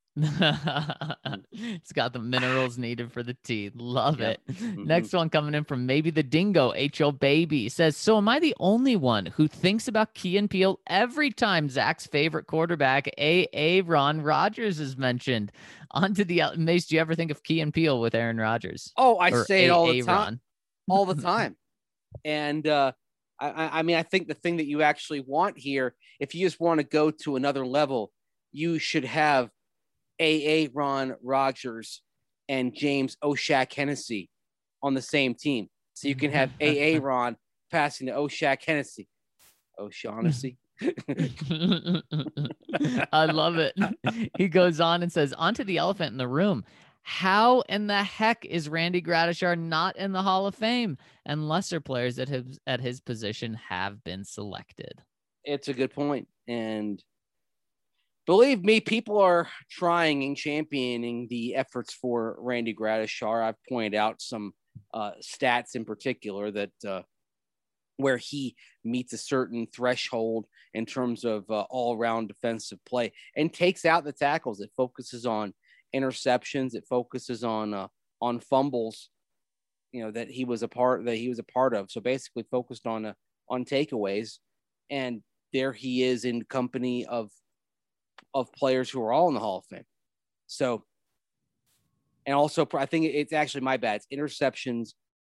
Speaker 1: It's got the minerals needed for the tea. Love it.
Speaker 3: Mm-hmm.
Speaker 1: Next one coming in from Maybe the Dingo. HO Baby says, so am I the only one who thinks about Key and Peele every time Zach's favorite quarterback, Aaron Rodgers, is mentioned? On to the Mace, do you ever think of Key and Peele with Aaron Rodgers?
Speaker 3: Oh, I say it all the time. All the time. And I mean, I think the thing that you actually want here, if you just want to go to another level, you should have Aaron Rodgers and James O'Shaq Hennessy on the same team. So you can have Aaron passing to O'Shaq Hennessy. O'Shaughnessy.
Speaker 1: I love it. He goes on and says, onto the elephant in the room. How in the heck is Randy Gradishar not in the Hall of Fame? And lesser players at his position have been selected.
Speaker 3: It's a good point. And believe me, people are trying and championing the efforts for Randy Gradishar. I've pointed out some stats in particular that where he meets a certain threshold in terms of all-around defensive play and takes out the tackles. It focuses on interceptions. It focuses on fumbles, that he was a part of. So basically focused on takeaways. And there he is in company of players who are all in the Hall of Fame. So, and also I think it's actually my bad. It's interceptions,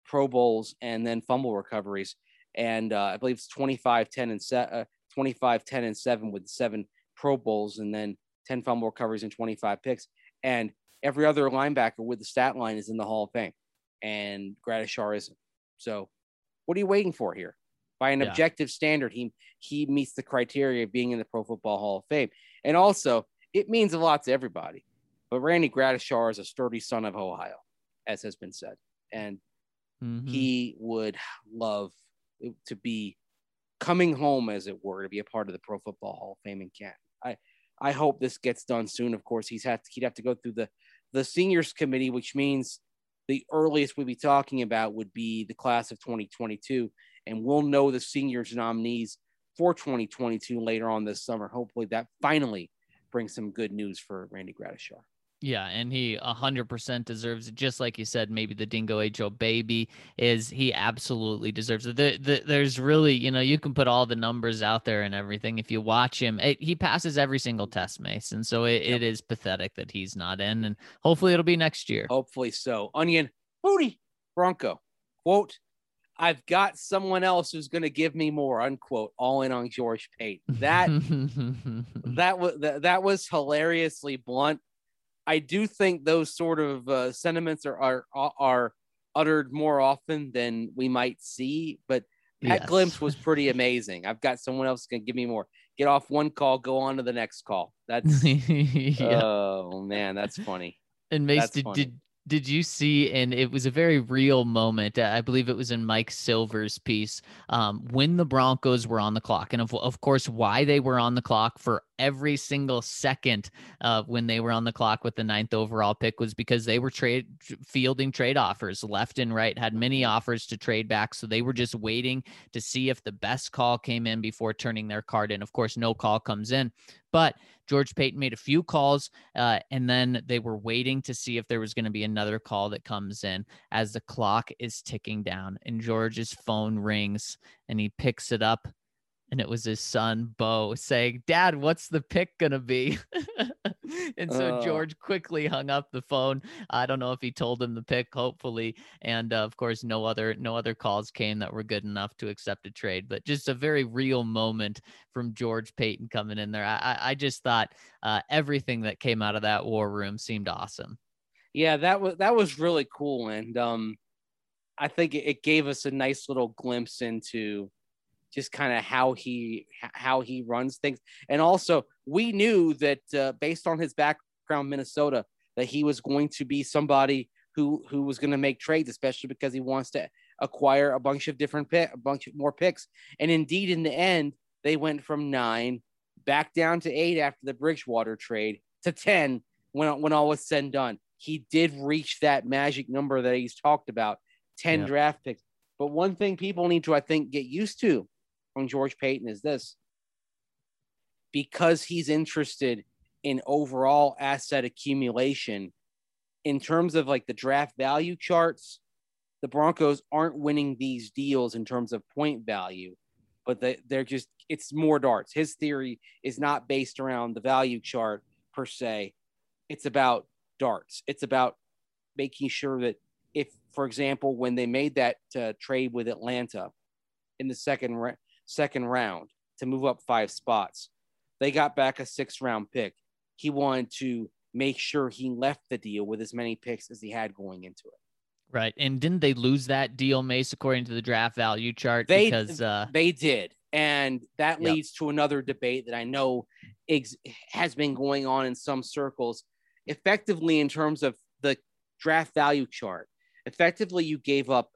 Speaker 3: Pro Bowls and then fumble recoveries. And I believe it's 25, 10, and 25, 10, and 7 with 7 Pro Bowls and then 10 fumble recoveries and 25 picks. And every other linebacker with the stat line is in the Hall of Fame. And Gradishar isn't. So what are you waiting for here? By an objective standard, he meets the criteria of being in the Pro Football Hall of Fame. And also, it means a lot to everybody. But Randy Gradishar is a sturdy son of Ohio, as has been said. And he would love to be coming home, as it were, to be a part of the Pro Football Hall of Fame in Canton. I hope this gets done soon. Of course, he'd have to go through the seniors committee, which means the earliest we'd be talking about would be the class of 2022. And we'll know the seniors nominees for 2022 later on this summer. Hopefully that finally brings some good news for Randy Gradishar.
Speaker 1: Yeah, and he 100% deserves it. Just like you said, maybe the Dingo H.O. baby he absolutely deserves it. There's really, you can put all the numbers out there and everything. If you watch him, he passes every single test, Mason. So it is pathetic that he's not in, and hopefully it'll be next year.
Speaker 3: Hopefully so. Onion, Booty, Bronco, quote, I've got someone else who's going to give me more, unquote, all in on George Paton. That was hilariously blunt. I do think those sort of sentiments are uttered more often than we might see, but that glimpse was pretty amazing. I've got someone else going to give me more. Get off one call, go on to the next call. That's oh man, that's funny.
Speaker 1: And Mace, did you see, and it was a very real moment, I believe it was in Mike Silver's piece, when the Broncos were on the clock. And of course, why they were on the clock for every single second when they were on the clock with the 9th overall pick was because they were fielding trade offers left and right, had many offers to trade back. So they were just waiting to see if the best call came in before turning their card in. Of course, no call comes in, but George Paton made a few calls, and then they were waiting to see if there was going to be another call that comes in as the clock is ticking down, and George's phone rings, and he picks it up, and it was his son, Bo, saying, Dad, what's the pick going to be? And so George quickly hung up the phone. I don't know if he told him the pick, hopefully. And of course, no other calls came that were good enough to accept a trade, but just a very real moment from George Paton coming in there. I just thought everything that came out of that war room seemed awesome.
Speaker 3: Yeah, that was really cool. And I think it gave us a nice little glimpse into just kind of how he runs things. And also we knew that based on his background, Minnesota, that he was going to be somebody who was going to make trades, especially because he wants to acquire a bunch of more picks. And indeed, in the end, they went from 9 back down to 8 after the Bridgewater trade to 10 when all was said and done. He did reach that magic number that he's talked about, 10 draft picks. But one thing people need to, I think, get used to on George Paton is this. Because he's interested in overall asset accumulation, in terms of like the draft value charts, the Broncos aren't winning these deals in terms of point value, but they're just, it's more darts. His theory is not based around the value chart per se. It's about darts. It's about making sure that if, for example, when they made that trade with Atlanta in the second round to move up 5 spots, they got back a 6th round pick. He wanted to make sure he left the deal with as many picks as he had going into it.
Speaker 1: Right. And didn't they lose that deal, Mace, according to the draft value chart?
Speaker 3: They did. And that leads to another debate that I know has been going on in some circles. Effectively, in terms of the draft value chart, effectively you gave up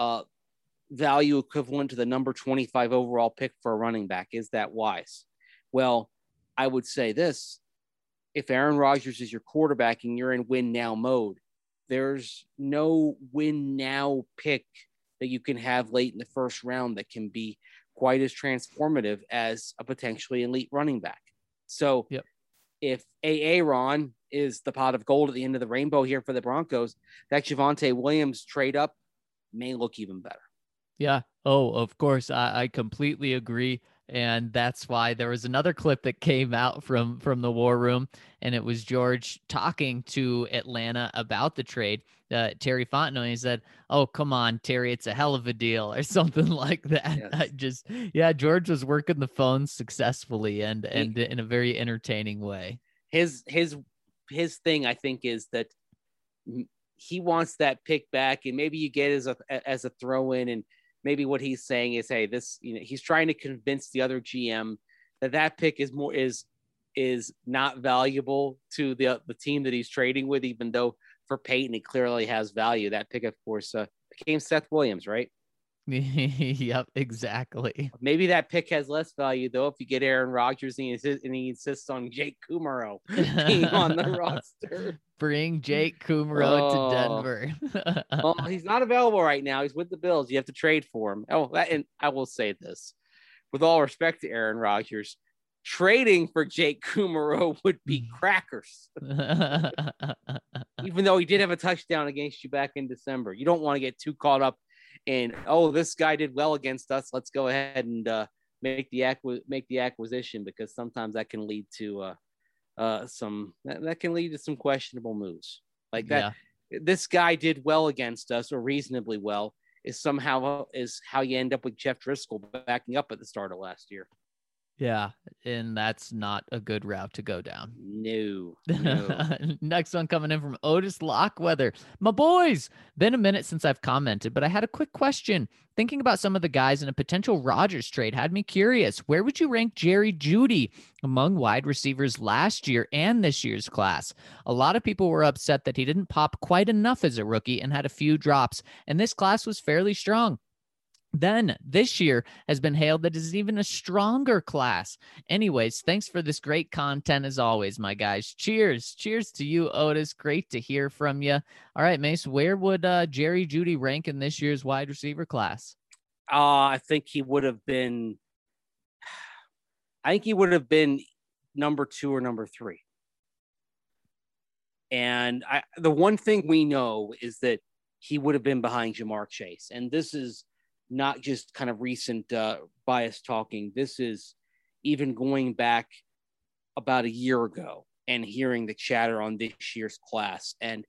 Speaker 3: value equivalent to the number 25 overall pick for a running back. Is that wise? Well, I would say this. If Aaron Rodgers is your quarterback and you're in win now mode, there's no win now pick that you can have late in the first round that can be quite as transformative as a potentially elite running back. So if Aaron is the pot of gold at the end of the rainbow here for the Broncos, that Javonte Williams trade up may look even better.
Speaker 1: Yeah. Oh, of course. I completely agree. And that's why there was another clip that came out from the war room, and it was George talking to Atlanta about the trade. Terry Fontenot, he said, "Oh, come on, Terry, it's a hell of a deal," or something like that.
Speaker 3: Yes.
Speaker 1: George was working the phone successfully and in a very entertaining way.
Speaker 3: His thing, I think, is that he wants that pick back, and maybe you get as a throw in, and maybe what he's saying is, hey, this, he's trying to convince the other GM that pick is not valuable to the team that he's trading with, even though for Peyton it clearly has value. That pick, of course, became Seth Williams, right?
Speaker 1: Yep, exactly.
Speaker 3: Maybe that pick has less value though if you get Aaron Rodgers and he insists on Jake Kumaro being on the roster.
Speaker 1: Bring Jake Kumaro to Denver.
Speaker 3: Well, he's not available right now. He's with the Bills. You have to trade for him. And I will say this, with all respect to Aaron Rodgers, trading for Jake Kumaro would be crackers. Even though he did have a touchdown against you back in December. You don't want to get too caught up in, oh, this guy did well against us, let's go ahead and make the acquisition, because sometimes that can lead to some questionable moves like that. Yeah. This guy did well against us, or reasonably well, is how you end up with Jeff Driscoll backing up at the start of last year.
Speaker 1: Yeah, and that's not a good route to go down.
Speaker 3: No.
Speaker 1: Next one coming in from Otis Lockweather. My boys, been a minute since I've commented, but I had a quick question. Thinking about some of the guys in a potential Rodgers trade had me curious. Where would you rank Jerry Jeudy among wide receivers last year and this year's class? A lot of people were upset that he didn't pop quite enough as a rookie and had a few drops, and this class was fairly strong. Then this year has been hailed that is even a stronger class. Anyways, thanks for this great content as always, my guys. Cheers. Cheers to you, Otis. Great to hear from you. All right, Mace, where would Jerry Jeudy rank in this year's wide receiver class?
Speaker 3: I think he would have been number 2 or number 3. And the one thing we know is that he would have been behind Ja'Marr Chase. And this is not just kind of recent bias talking. This is even going back about a year ago and hearing the chatter on this year's class. And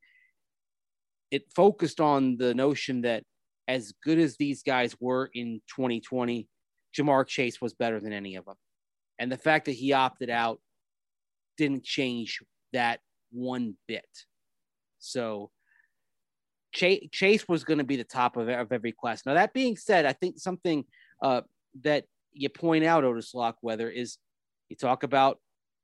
Speaker 3: it focused on the notion that as good as these guys were in 2020, Ja'Marr Chase was better than any of them. And the fact that he opted out didn't change that one bit. So Chase was going to be the top of every class. Now, that being said, I think something that you point out, Otis Lockweather, is you talk about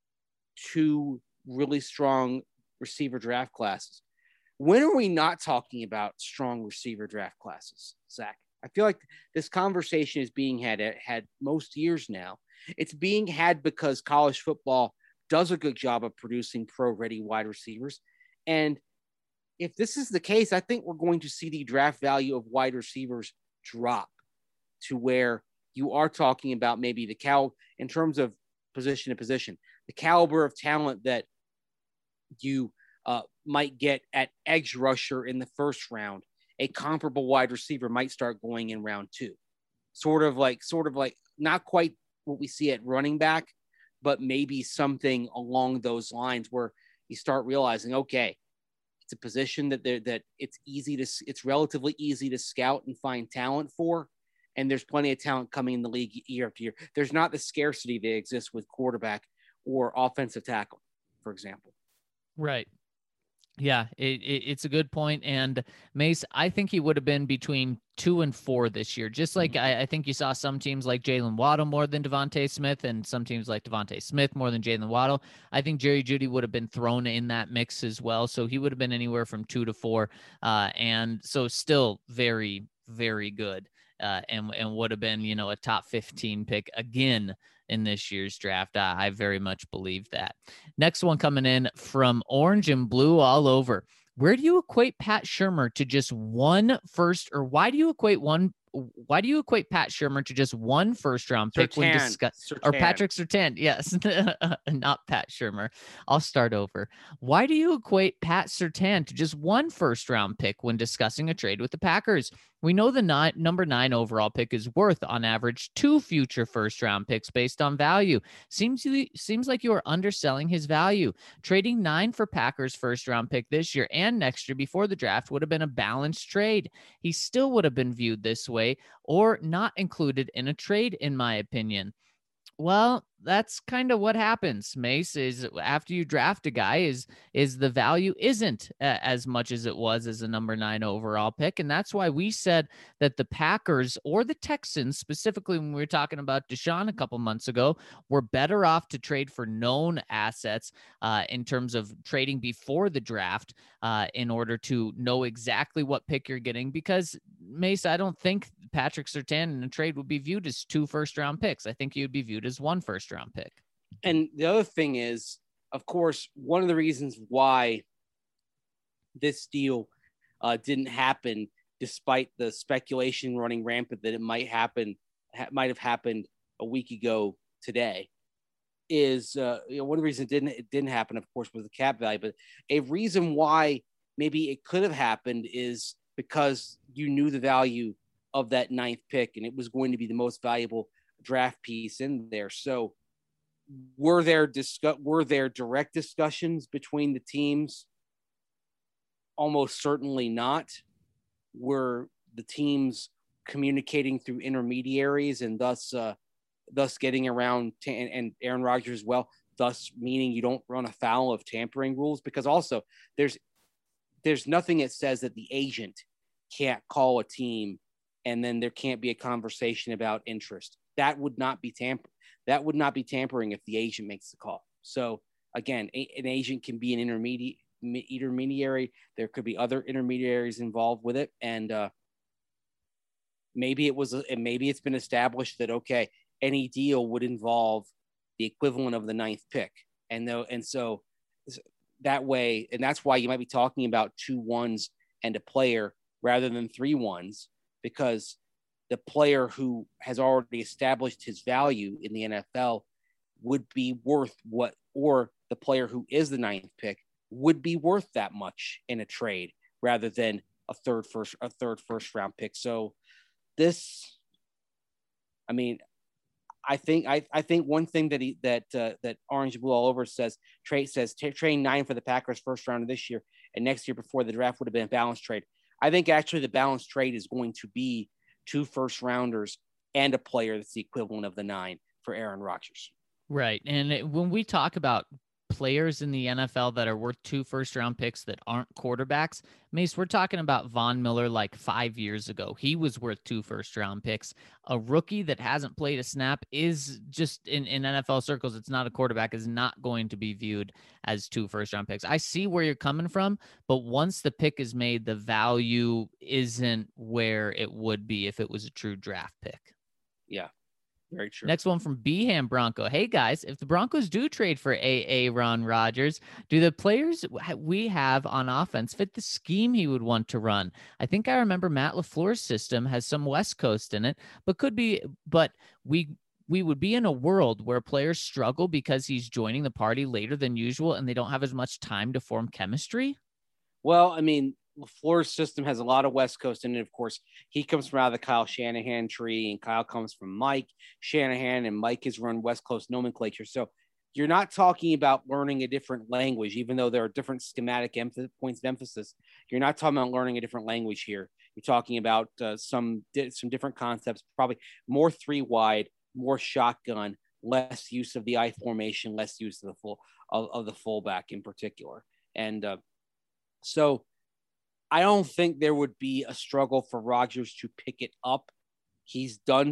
Speaker 3: 2 really strong receiver draft classes. When are we not talking about strong receiver draft classes, Zach? I feel like this conversation is being had most years now. It's being had because college football does a good job of producing pro-ready wide receivers. And if this is the case, I think we're going to see the draft value of wide receivers drop to where you are talking about maybe in terms of position to position, the caliber of talent that you might get at edge rusher in the first round. A comparable wide receiver might start going in round 2. Sort of like not quite what we see at running back, but maybe something along those lines where you start realizing, okay, it's a position that it's relatively easy to scout and find talent for. And there's plenty of talent coming in the league year after year. There's not the scarcity that exists with quarterback or offensive tackle, for example.
Speaker 1: Right. Yeah, it's a good point. And Mace, I think he would have been between 2 and 4 this year. Just like I think you saw some teams like Jalen Waddle more than Devontae Smith, and some teams like Devontae Smith more than Jalen Waddle. I think Jerry Jeudy would have been thrown in that mix as well. So he would have been anywhere from 2 to 4. And so still very, very good. And would have been, a top 15 pick again in this year's draft. I very much believe that. Next one coming in from Orange and Blue all over. Where do you equate Pat Shurmur to just one first, or why do you equate Pat Shurmur to just one first round pick when discussing, or Patrick Surtain? Yes, not Pat Shurmur. I'll start over. Why do you equate Pat Surtain to just one first round pick when discussing a trade with the Packers? We know the number 9 overall pick is worth, on average, 2 future first-round picks based on value. Seems like you are underselling his value. Trading 9 for Packers' first-round pick this year and next year before the draft would have been a balanced trade. He still would have been viewed this way or not included in a trade, in my opinion. Well, that's kind of what happens, Mace, is after you draft a guy is the value isn't as much as it was as a number 9 overall pick. And that's why we said that the Packers or the Texans, specifically when we were talking about Deshaun a couple months ago, were better off to trade for known assets in terms of trading before the draft in order to know exactly what pick you're getting. Because, Mace, I don't think Patrick Surtain in a trade would be viewed as 2 first-round picks. I think he would be viewed as 1 first-round pick.
Speaker 3: And the other thing is, of course, one of the reasons why this deal didn't happen, despite the speculation running rampant that it might have happened a week ago today, is one of the reasons it didn't happen, of course, was the cap value. But a reason why maybe it could have happened is because you knew the value of that 9th pick, and it was going to be the most valuable draft piece in there. So were there direct discussions between the teams? Almost certainly not. Were the teams communicating through intermediaries and thus getting around and Aaron Rodgers as well, thus meaning you don't run afoul of tampering rules? Because also there's nothing that says that the agent can't call a team and then there can't be a conversation about interest. That would not be tampering if the agent makes the call. So again, an agent can be an intermediary. There could be other intermediaries involved with it. And maybe it's been established that, okay, any deal would involve the equivalent of the 9th pick. And so that way, and that's why you might be talking about 2 1s and a player rather than 3 1s, because the player who has already established his value in the NFL would be worth what, or the player who is the 9th pick would be worth that much in a trade rather than a third first round pick. So this, I mean, I think one thing that Orange and Blue all over says trade 9 for the Packers first round of this year and next year before the draft would have been a balanced trade. I think actually the balanced trade is going to be 2 first rounders and a player that's the equivalent of the 9 for Aaron Rodgers.
Speaker 1: Right. And when we talk about players in the NFL that are worth 2 first-round picks that aren't quarterbacks, Mace, we're talking about Von Miller like 5 years ago. He was worth 2 first-round picks. A rookie that hasn't played a snap is just in NFL circles, it's not a quarterback, is not going to be viewed as 2 first-round picks. I see where you're coming from, but once the pick is made, the value isn't where it would be if it was a true draft pick.
Speaker 3: Yeah. Very true.
Speaker 1: Next one from Beham Bronco. Hey guys, if the Broncos do trade for Aaron Rodgers, do the players we have on offense fit the scheme he would want to run? I think I remember Matt LaFleur's system has some West Coast in it, but we would be in a world where players struggle because he's joining the party later than usual and they don't have as much time to form chemistry.
Speaker 3: Well, I mean, LaFleur's system has a lot of West Coast in it. Of course, he comes from out of the Kyle Shanahan tree, and Kyle comes from Mike Shanahan, and Mike has run West Coast nomenclature. So you're not talking about learning a different language, even though there are different schematic points of emphasis. You're not talking about learning a different language here. You're talking about some different concepts, probably more 3 wide, more shotgun, less use of the I formation, less use of the fullback in particular. And so I don't think there would be a struggle for Rodgers to pick it up. He's done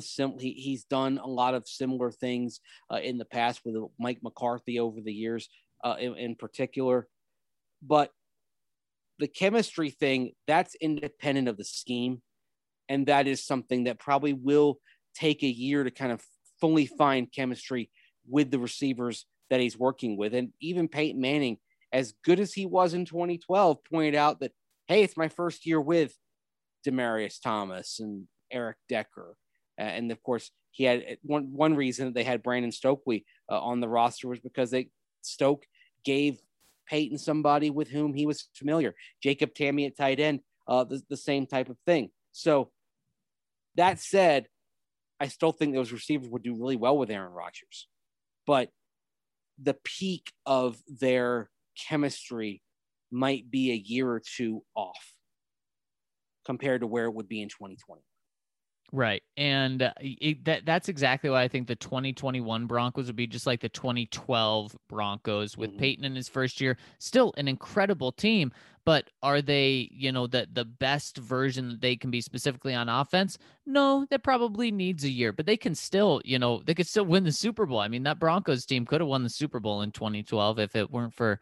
Speaker 3: a lot of similar things in the past with Mike McCarthy over the years in particular. But the chemistry thing, that's independent of the scheme. And that is something that probably will take a year to kind of fully find chemistry with the receivers that he's working with. And even Peyton Manning, as good as he was in 2012, pointed out that, hey, it's my first year with Demaryius Thomas and Eric Decker. And of course, he had one reason that they had Brandon Stokely on the roster was because Stoke gave Peyton somebody with whom he was familiar. Jacob Tamme at tight end, the same type of thing. So That said, I still think those receivers would do really well with Aaron Rodgers. But the peak of their chemistry might be a year or two off compared to where it would be in 2020.
Speaker 1: Right. And that's exactly why I think the 2021 Broncos would be just like the 2012 Broncos with Peyton in his first year. Still an incredible team, but are they, the best version that they can be specifically on offense? No, that probably needs a year, but they can still, they could still win the Super Bowl. I mean, that Broncos team could have won the Super Bowl in 2012 if it weren't for,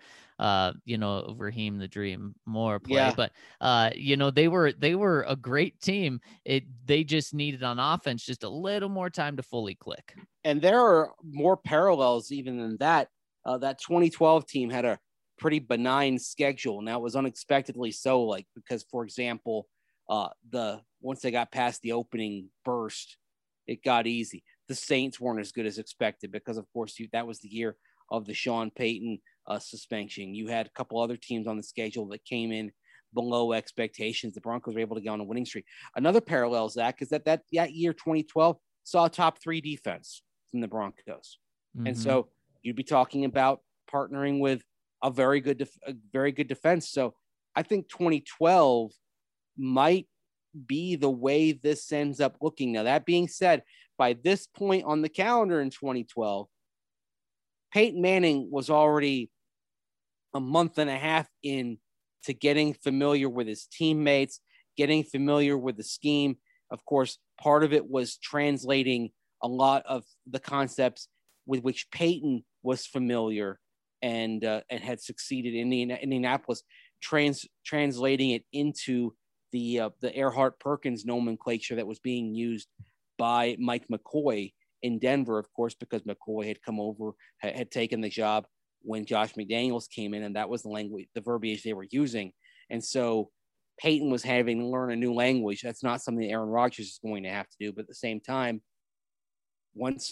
Speaker 1: Raheem the Dream Moore play.
Speaker 3: Yeah.
Speaker 1: But, they were a great team. They just needed on offense just a little more time to fully click.
Speaker 3: And there are more parallels even than that. That 2012 team had a pretty benign schedule. Now it was unexpectedly so, because, for example, once they got past the opening burst, it got easy. The Saints weren't as good as expected because, of course, that was the year of the Sean Payton suspension. You had a couple other teams on the schedule that came in below expectations. The Broncos were able to get on a winning streak. Another parallel, Zach, is that year 2012 saw a top 3 defense from the Broncos. Mm-hmm. And so you'd be talking about partnering with a very good defense. So I think 2012 might be the way this ends up looking. Now, that being said, by this point on the calendar in 2012, Peyton Manning was already a month and a half in to getting familiar with his teammates, getting familiar with the scheme. Of course, part of it was translating a lot of the concepts with which Peyton was familiar and had succeeded in Indianapolis, translating it into the Erhardt-Perkins nomenclature that was being used by Mike McCoy in Denver, of course, because McCoy had come over, had taken the job when Josh McDaniels came in, and that was the language, the verbiage they were using. And so Peyton was having to learn a new language. That's not something Aaron Rodgers is going to have to do. But at the same time, once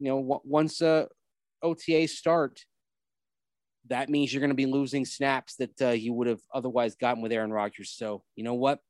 Speaker 3: OTAs start, that means you're going to be losing snaps that you would have otherwise gotten with Aaron Rodgers. So you know what?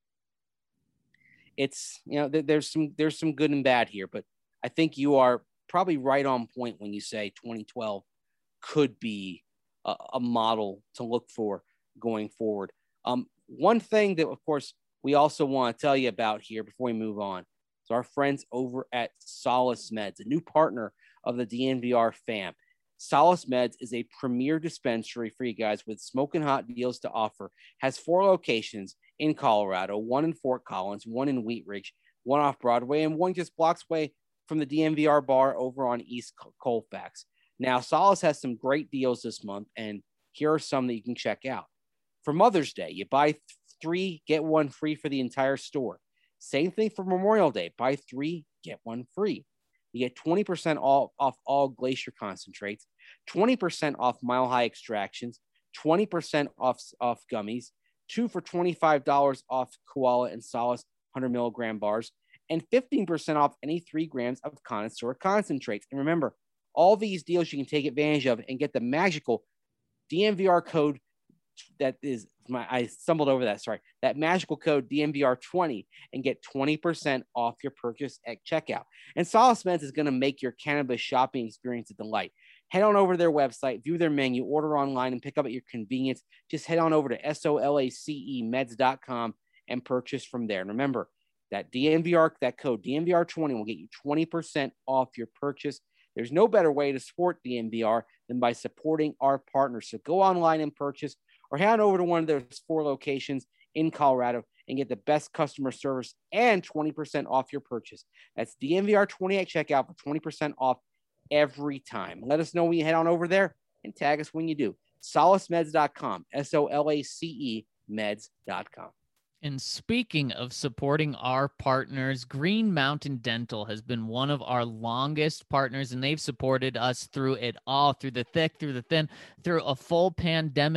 Speaker 3: It's, there's some good and bad here, but I think you are probably right on point when you say 2012 could be a model to look for going forward. One thing that, of course, we also want to tell you about here before we move on is our friends over at Solace Meds, a new partner of the DNVR fam. Solace Meds is a premier dispensary for you guys with smoking hot deals to offer. Has 4 locations in Colorado, 1 in Fort Collins, 1 in Wheat Ridge, 1 off Broadway, and 1 just blocks away from the DNVR bar over on East Colfax. Now, Solace has some great deals this month, and here are some that you can check out. For Mother's Day, you buy 3, get 1 free for the entire store. Same thing for Memorial Day. Buy 3, get 1 free. You get 20% off all Glacier concentrates, 20% off Mile High extractions, 20% off gummies, 2 for $25 off Koala and Solace 100 milligram bars, and 15% off any 3 grams of Connoisseur concentrates. And remember, all these deals you can take advantage of and get the magical DNVR code that magical code DNVR20 and get 20% off your purchase at checkout. And Solace Meds is going to make your cannabis shopping experience a delight. Head on over to their website, view their menu, order online, and pick up at your convenience. Just head on over to SOLACEmeds.com and purchase from there. And remember, that code DNVR20 will get you 20% off your purchase. There's no better way to support DNVR than by supporting our partners. So go online and purchase, or head on over to one of those 4 locations in Colorado and get the best customer service and 20% off your purchase. That's DNVR20 at checkout for 20% off every time. Let us know when you head on over there and tag us when you do. SolaceMeds.com, SOLACE meds.com.
Speaker 1: And speaking of supporting our partners, Green Mountain Dental has been one of our longest partners, and they've supported us through it all, through the thick, through the thin, through a full pandemic.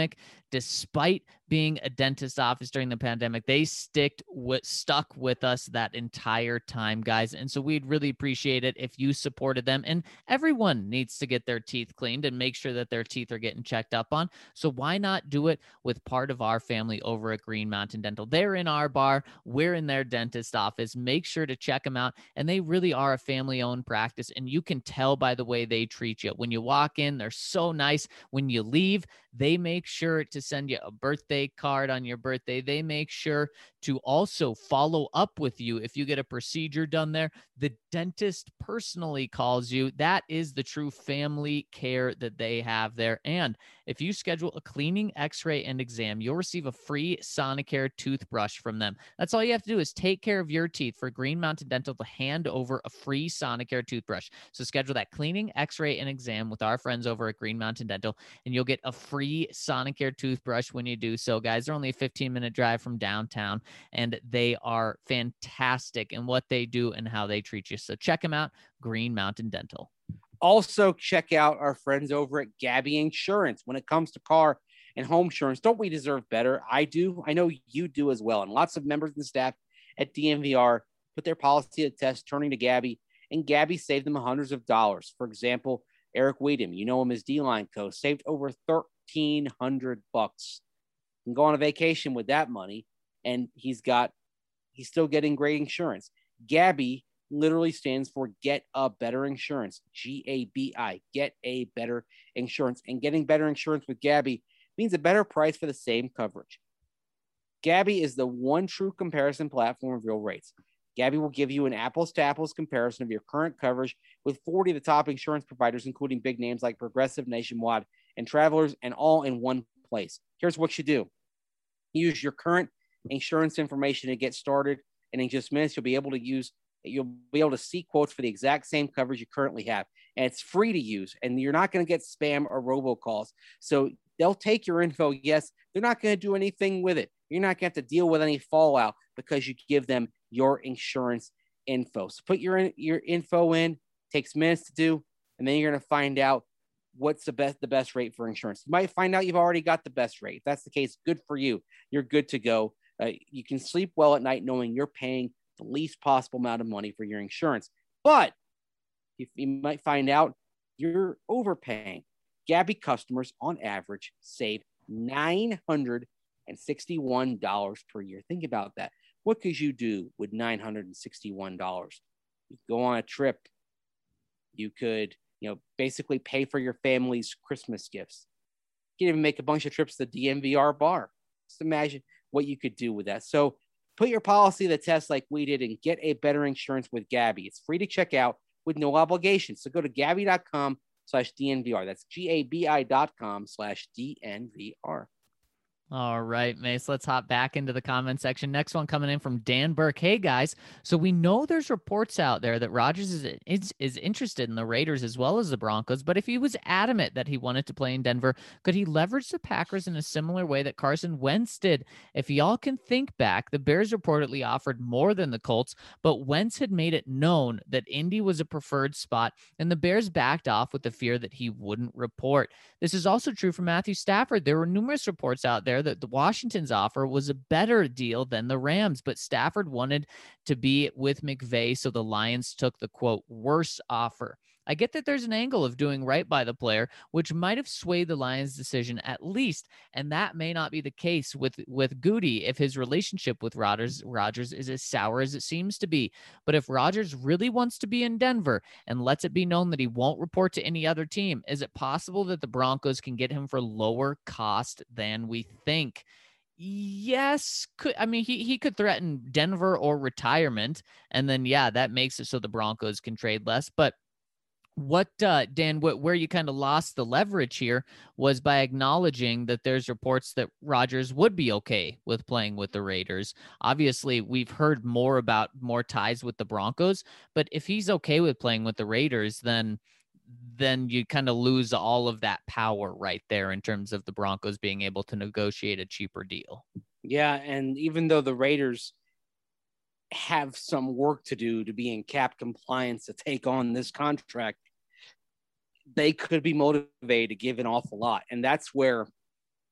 Speaker 1: despite being a dentist office during the pandemic. They stuck with us that entire time, guys. And so we'd really appreciate it if you supported them. And everyone needs to get their teeth cleaned and make sure that their teeth are getting checked up on. So why not do it with part of our family over at Green Mountain Dental? They're in our bar. We're in their dentist office. Make sure to check them out. And they really are a family-owned practice. And you can tell by the way they treat you. When you walk in, they're so nice. When you leave, they make sure to send you a birthday card on your birthday. They make sure to also follow up with you if you get a procedure done there. The dentist personally calls you. That is the true family care that they have there. And if you schedule a cleaning, x-ray, and exam, you'll receive a free Sonicare toothbrush from them. That's all you have to do is take care of your teeth for Green Mountain Dental to hand over a free Sonicare toothbrush. So schedule that cleaning, x-ray, and exam with our friends over at Green Mountain Dental, and you'll get a free Sonicare toothbrush when you do so, guys. They're only a 15-minute drive from downtown, and they are fantastic in what they do and how they treat you. So check them out, Green Mountain Dental.
Speaker 3: Also, check out our friends over at Gabby Insurance. When it comes to car and home insurance, don't we deserve better? I do. I know you do as well. And lots of members and staff at DNVR put their policy to test, turning to Gabby, and Gabby saved them hundreds of dollars. For example, Eric Weedham, you know him as D-Line Co., saved over $1,300. You can go on a vacation with that money, and he's still getting great insurance. Gabby literally stands for Get a Better Insurance, G-A-B-I, Get a Better Insurance. And getting better insurance with Gabby means a better price for the same coverage. Gabby is the one true comparison platform of real rates. Gabby will give you an apples-to-apples comparison of your current coverage with 40 of the top insurance providers, including big names like Progressive, Nationwide, and Travelers, and all in one place. Here's what you do. Use your current insurance information to get started, and in just minutes, you'll be able to see quotes for the exact same coverage you currently have. And it's free to use, and you're not going to get spam or robocalls. So they'll take your info. Yes, they're not going to do anything with it. You're not going to have to deal with any fallout because you give them your insurance info. So put your info in, takes minutes to do, and then you're going to find out what's the best rate for insurance. You might find out you've already got the best rate. If that's the case, good for you. You're good to go. You can sleep well at night knowing you're paying the least possible amount of money for your insurance. But you might find out you're overpaying. Gabby customers on average save $961 per year. Think about that. What could you do with $961? You could go on a trip. You could, basically pay for your family's Christmas gifts. You can even make a bunch of trips to the DNVR bar. Just imagine what you could do with that. So put your policy to the test like we did and get a better insurance with Gabby. It's free to check out with no obligation. So go to Gabby.com/DNVR. That's GABI.com/DNVR.
Speaker 1: All right, Mace, let's hop back into the comment section. Next one coming in from Dan Burke. Hey, guys. So we know there's reports out there that Rodgers is interested in the Raiders as well as the Broncos, but if he was adamant that he wanted to play in Denver, could he leverage the Packers in a similar way that Carson Wentz did? If y'all can think back, the Bears reportedly offered more than the Colts, but Wentz had made it known that Indy was a preferred spot, and the Bears backed off with the fear that he wouldn't report. This is also true for Matthew Stafford. There were numerous reports out there that the Washington's offer was a better deal than the Rams, but Stafford wanted to be with McVay, so the Lions took the, quote, worse offer. I get that there's an angle of doing right by the player, which might have swayed the Lions' decision at least, and that may not be the case with Goody if his relationship with Rodgers is as sour as it seems to be. But if Rodgers really wants to be in Denver and lets it be known that he won't report to any other team, is it possible that the Broncos can get him for lower cost than we think? Yes. He could threaten Denver or retirement, and then, that makes it so the Broncos can trade less. But Dan, where you kind of lost the leverage here was by acknowledging that there's reports that Rodgers would be okay with playing with the Raiders. Obviously, we've heard more about more ties with the Broncos, but if he's okay with playing with the Raiders, then you kind of lose all of that power right there in terms of the Broncos being able to negotiate a cheaper deal.
Speaker 3: Yeah, and even though the Raiders have some work to do to be in cap compliance to take on this contract, they could be motivated to give an awful lot. And that's where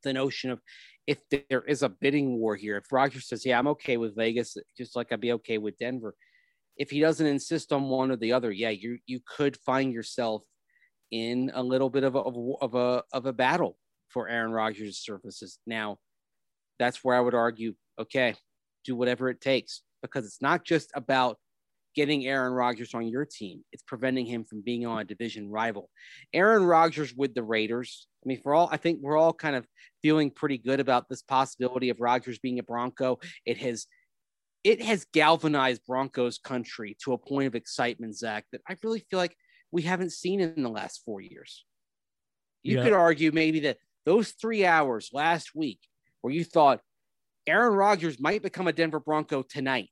Speaker 3: the notion of if there is a bidding war here, if Rodgers says, yeah, I'm okay with Vegas, just like I'd be okay with Denver. If he doesn't insist on one or the other, yeah, you could find yourself in a little bit of a battle for Aaron Rodgers' services. Now, that's where I would argue, okay, do whatever it takes, because it's not just about getting Aaron Rodgers on your team. It's preventing him from being on a division rival. Aaron Rodgers with the Raiders. I mean, I think we're all kind of feeling pretty good about this possibility of Rodgers being a Bronco. It has galvanized Broncos country to a point of excitement, Zach, that I really feel like we haven't seen in the last 4 years. You could argue maybe that those 3 hours last week where you thought Aaron Rodgers might become a Denver Bronco tonight,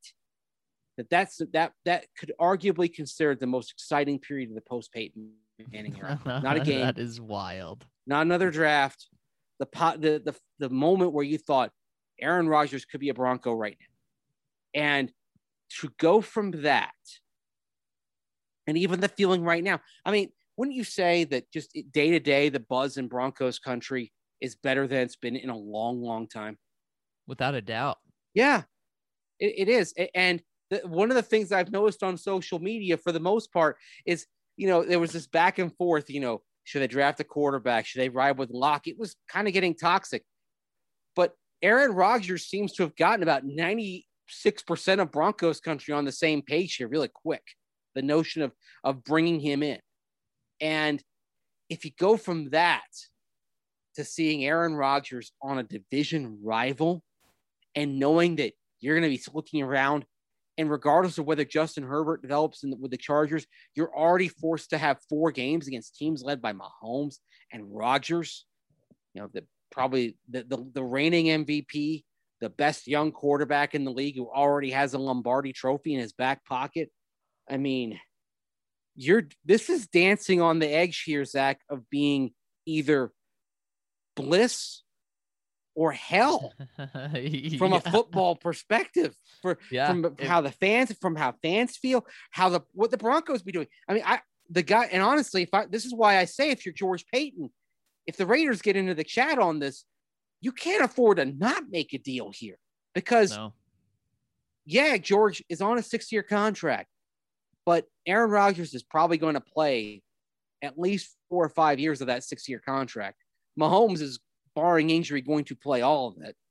Speaker 3: that could arguably consider the most exciting period of the post-Peyton Manning era. Not a game.
Speaker 1: That is wild.
Speaker 3: Not another draft. The moment where you thought Aaron Rodgers could be a Bronco right now. And to go from that, and even the feeling right now, I mean, wouldn't you say that just day to day, the buzz in Broncos country is better than it's been in a long, long time?
Speaker 1: Without a doubt.
Speaker 3: Yeah, it is. And one of the things I've noticed on social media for the most part is, there was this back and forth, should they draft a quarterback? Should they ride with Locke? It was kind of getting toxic. But Aaron Rodgers seems to have gotten about 96% of Broncos country on the same page here really quick. The notion of bringing him in. And if you go from that to seeing Aaron Rodgers on a division rival and knowing that you're going to be looking around, and regardless of whether Justin Herbert develops with the Chargers, you're already forced to have 4 games against teams led by Mahomes and Rodgers, probably the reigning MVP, the best young quarterback in the league who already has a Lombardi trophy in his back pocket. I mean, this is dancing on the edge here, Zach, of being either bliss or hell from a football perspective, from how fans feel, what the Broncos be doing. I mean, and honestly, this is why I say, if you're George Paton, if the Raiders get into the chat on this, you can't afford to not make a deal here, because George is on a 6-year contract, but Aaron Rodgers is probably going to play at least 4 or 5 years of that 6-year contract. Mahomes is, barring injury, going to play all of it.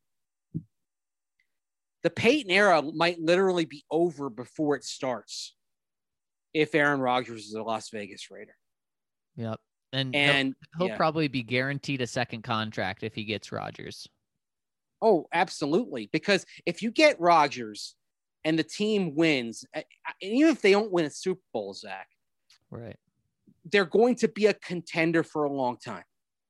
Speaker 3: The Peyton era might literally be over before it starts if Aaron Rodgers is a Las Vegas Raider.
Speaker 1: Yep. And he'll probably be guaranteed a second contract if he gets Rodgers.
Speaker 3: Oh, absolutely. Because if you get Rodgers and the team wins, and even if they don't win a Super Bowl, Zach,
Speaker 1: right,
Speaker 3: they're going to be a contender for a long time.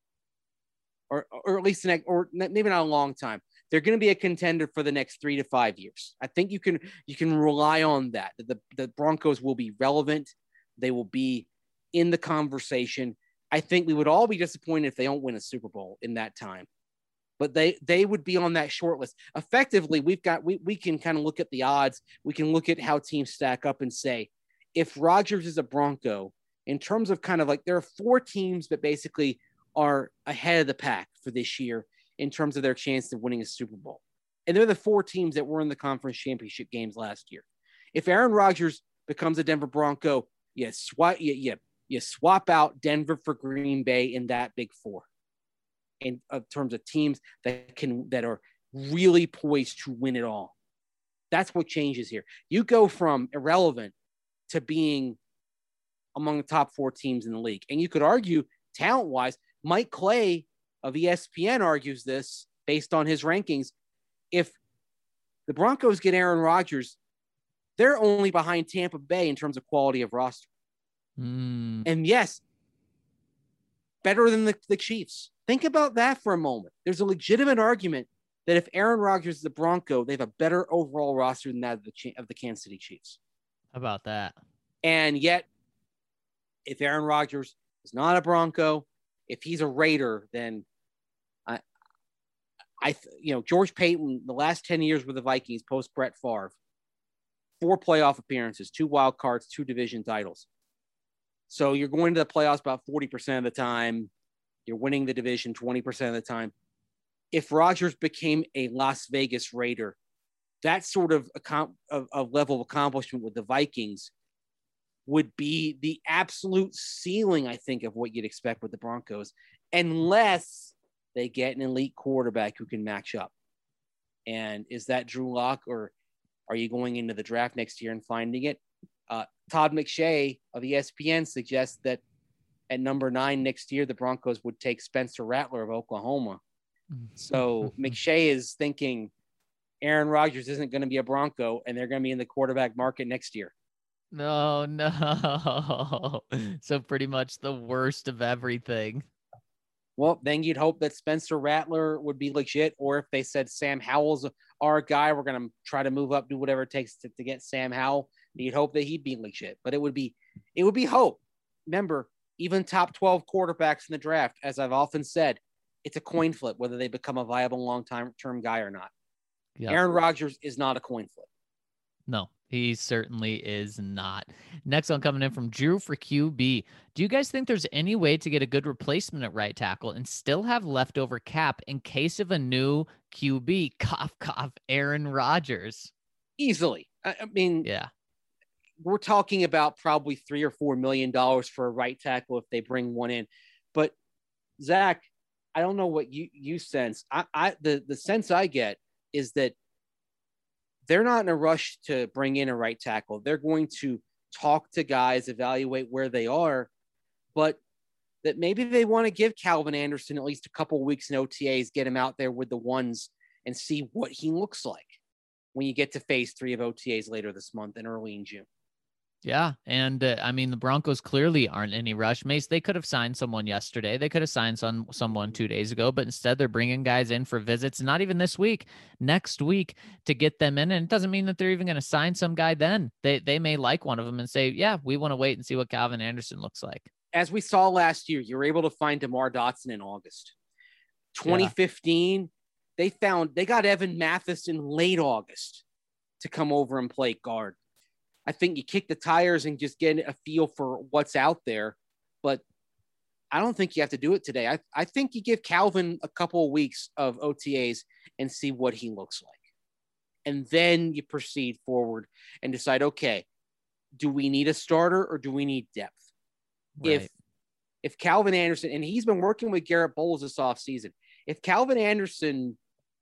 Speaker 3: Or at least maybe not a long time. They're going to be a contender for the next 3 to 5 years. I think you can rely on that. The Broncos will be relevant. They will be in the conversation. I think we would all be disappointed if they don't win a Super Bowl in that time. But they would be on that short list. Effectively, we can kind of look at the odds. We can look at how teams stack up and say, if Rodgers is a Bronco, in terms of kind of like, there are 4 teams that basically are ahead of the pack for this year in terms of their chance of winning a Super Bowl. And they're the 4 teams that were in the conference championship games last year. If Aaron Rodgers becomes a Denver Bronco, you swap out Denver for Green Bay in that big 4 in terms of teams that are really poised to win it all. That's what changes here. You go from irrelevant to being among the top 4 teams in the league. And you could argue, talent-wise, Mike Clay of ESPN argues this based on his rankings. If the Broncos get Aaron Rodgers, they're only behind Tampa Bay in terms of quality of roster. And yes, better than the Chiefs. Think about that for a moment. There's a legitimate argument that if Aaron Rodgers is the Bronco, they have a better overall roster than that of the Kansas City Chiefs.
Speaker 1: How about that?
Speaker 3: And yet, if Aaron Rodgers is not a Bronco, if he's a Raider, then George Paton, the last 10 years with the Vikings post Brett Favre, 4 playoff appearances, 2 wild cards, 2 division titles. So you're going to the playoffs about 40% of the time. You're winning the division 20% of the time. if Rodgers became a Las Vegas Raider, that sort of level of accomplishment with the Vikings would be the absolute ceiling, I think, of what you'd expect with the Broncos, unless they get an elite quarterback who can match up. And is that Drew Lock, or are you going into the draft next year and finding it? Todd McShay of ESPN suggests that at number 9 next year, the Broncos would take Spencer Rattler of Oklahoma. So McShay is thinking Aaron Rodgers isn't going to be a Bronco, and they're going to be in the quarterback market next year.
Speaker 1: No. So pretty much the worst of everything.
Speaker 3: Well, then you'd hope that Spencer Rattler would be legit, or if they said Sam Howell's our guy, we're going to try to move up, do whatever it takes to get Sam Howell. You'd hope that he'd be legit, but it would be hope. Remember, even top 12 quarterbacks in the draft, as I've often said, it's a coin flip whether they become a viable long-term guy or not. Yep. Aaron Rodgers is not a coin flip.
Speaker 1: No, he certainly is not. Next one coming in from Drew for QB. Do you guys think there's any way to get a good replacement at right tackle and still have leftover cap in case of a new QB? Cough, cough, Aaron Rodgers.
Speaker 3: Easily. I mean,
Speaker 1: yeah.
Speaker 3: We're talking about probably $3 or $4 million for a right tackle if they bring one in. But Zach, I don't know what you sense. The sense I get is that they're not in a rush to bring in a right tackle. They're going to talk to guys, evaluate where they are, but that maybe they want to give Calvin Anderson at least a couple of weeks in OTAs, get him out there with the ones and see what he looks like when you get to phase 3 of OTAs later this month and early in June.
Speaker 1: Yeah. And I mean, the Broncos clearly aren't in any rush. Mace, they could have signed someone yesterday. They could have signed someone 2 days ago, but instead they're bringing guys in for visits, not even this week, next week to get them in. And it doesn't mean that they're even going to sign some guy then. They may like one of them and say, yeah, we want to wait and see what Calvin Anderson looks like.
Speaker 3: As we saw last year, you were able to find DeMar Dotson in August. 2015, yeah. They got Evan Mathis in late August to come over and play guard. I think you kick the tires and just get a feel for what's out there. But I don't think you have to do it today. I think you give Calvin a couple of weeks of OTAs and see what he looks like. And then you proceed forward and decide, okay, do we need a starter or do we need depth?
Speaker 1: Right.
Speaker 3: If Calvin Anderson, and he's been working with Garrett Bowles this offseason, if Calvin Anderson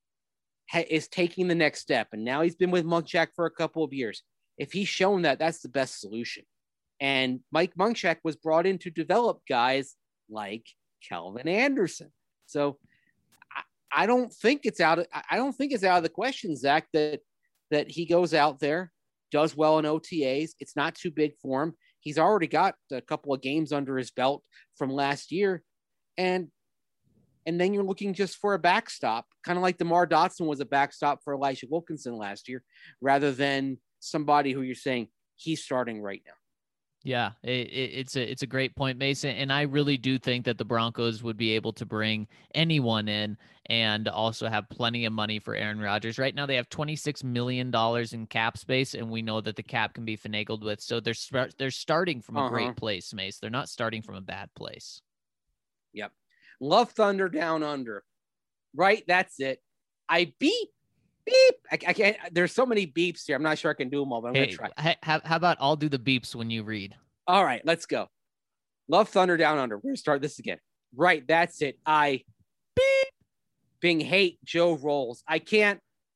Speaker 3: is taking the next step, and now he's been with Munchak for a couple of years, if he's shown that, that's the best solution. And Mike Munchak was brought in to develop guys like Calvin Anderson. So I don't think it's out of the question, Zach, that he goes out there, does well in OTAs. It's not too big for him. He's already got a couple of games under his belt from last year. And then you're looking just for a backstop, kind of like DeMar Dotson was a backstop for Elijah Wilkinson last year, rather than somebody who you're saying he's starting right now.
Speaker 1: Yeah, it's a great point, Mason. And I really do think that the Broncos would be able to bring anyone in and also have plenty of money for Aaron Rodgers. Right now, they have $26 million in cap space, and we know that the cap can be finagled with. So they're starting from a great place, Mace. They're not starting from a bad place.
Speaker 3: Yep. Love Thunder Down Under. Right, that's it. I beep. I can't. There's so many beeps here. I'm not sure I can do them all, but I'm going to try.
Speaker 1: How about I'll do the beeps when you read?
Speaker 3: All right, let's go. Love Thunder Down Under. We're going to start this again. Right, that's it. I beep. Bing hate Joe Rolls. I can't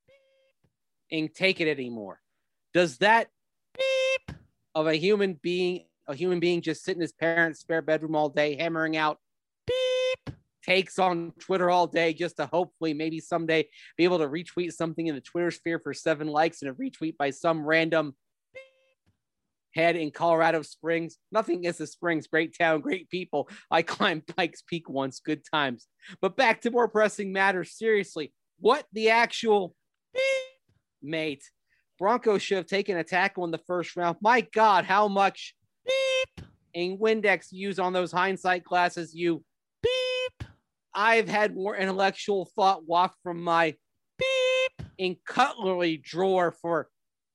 Speaker 3: take it anymore. Does that beep of a human being just sitting in his parents' spare bedroom all day, hammering out beep takes on Twitter all day just to hopefully maybe someday be able to retweet something in the Twitter sphere for 7 likes and a retweet by some random head in Colorado Springs. Nothing against the Springs. Great town, great people. I climbed Pikes Peak once. Good times. But back to more pressing matters. Seriously, what the actual mate? Broncos should have taken a tackle in the first round. My God, how much in Windex use on those hindsight glasses you I've had more intellectual thought waft from my in cutlery drawer for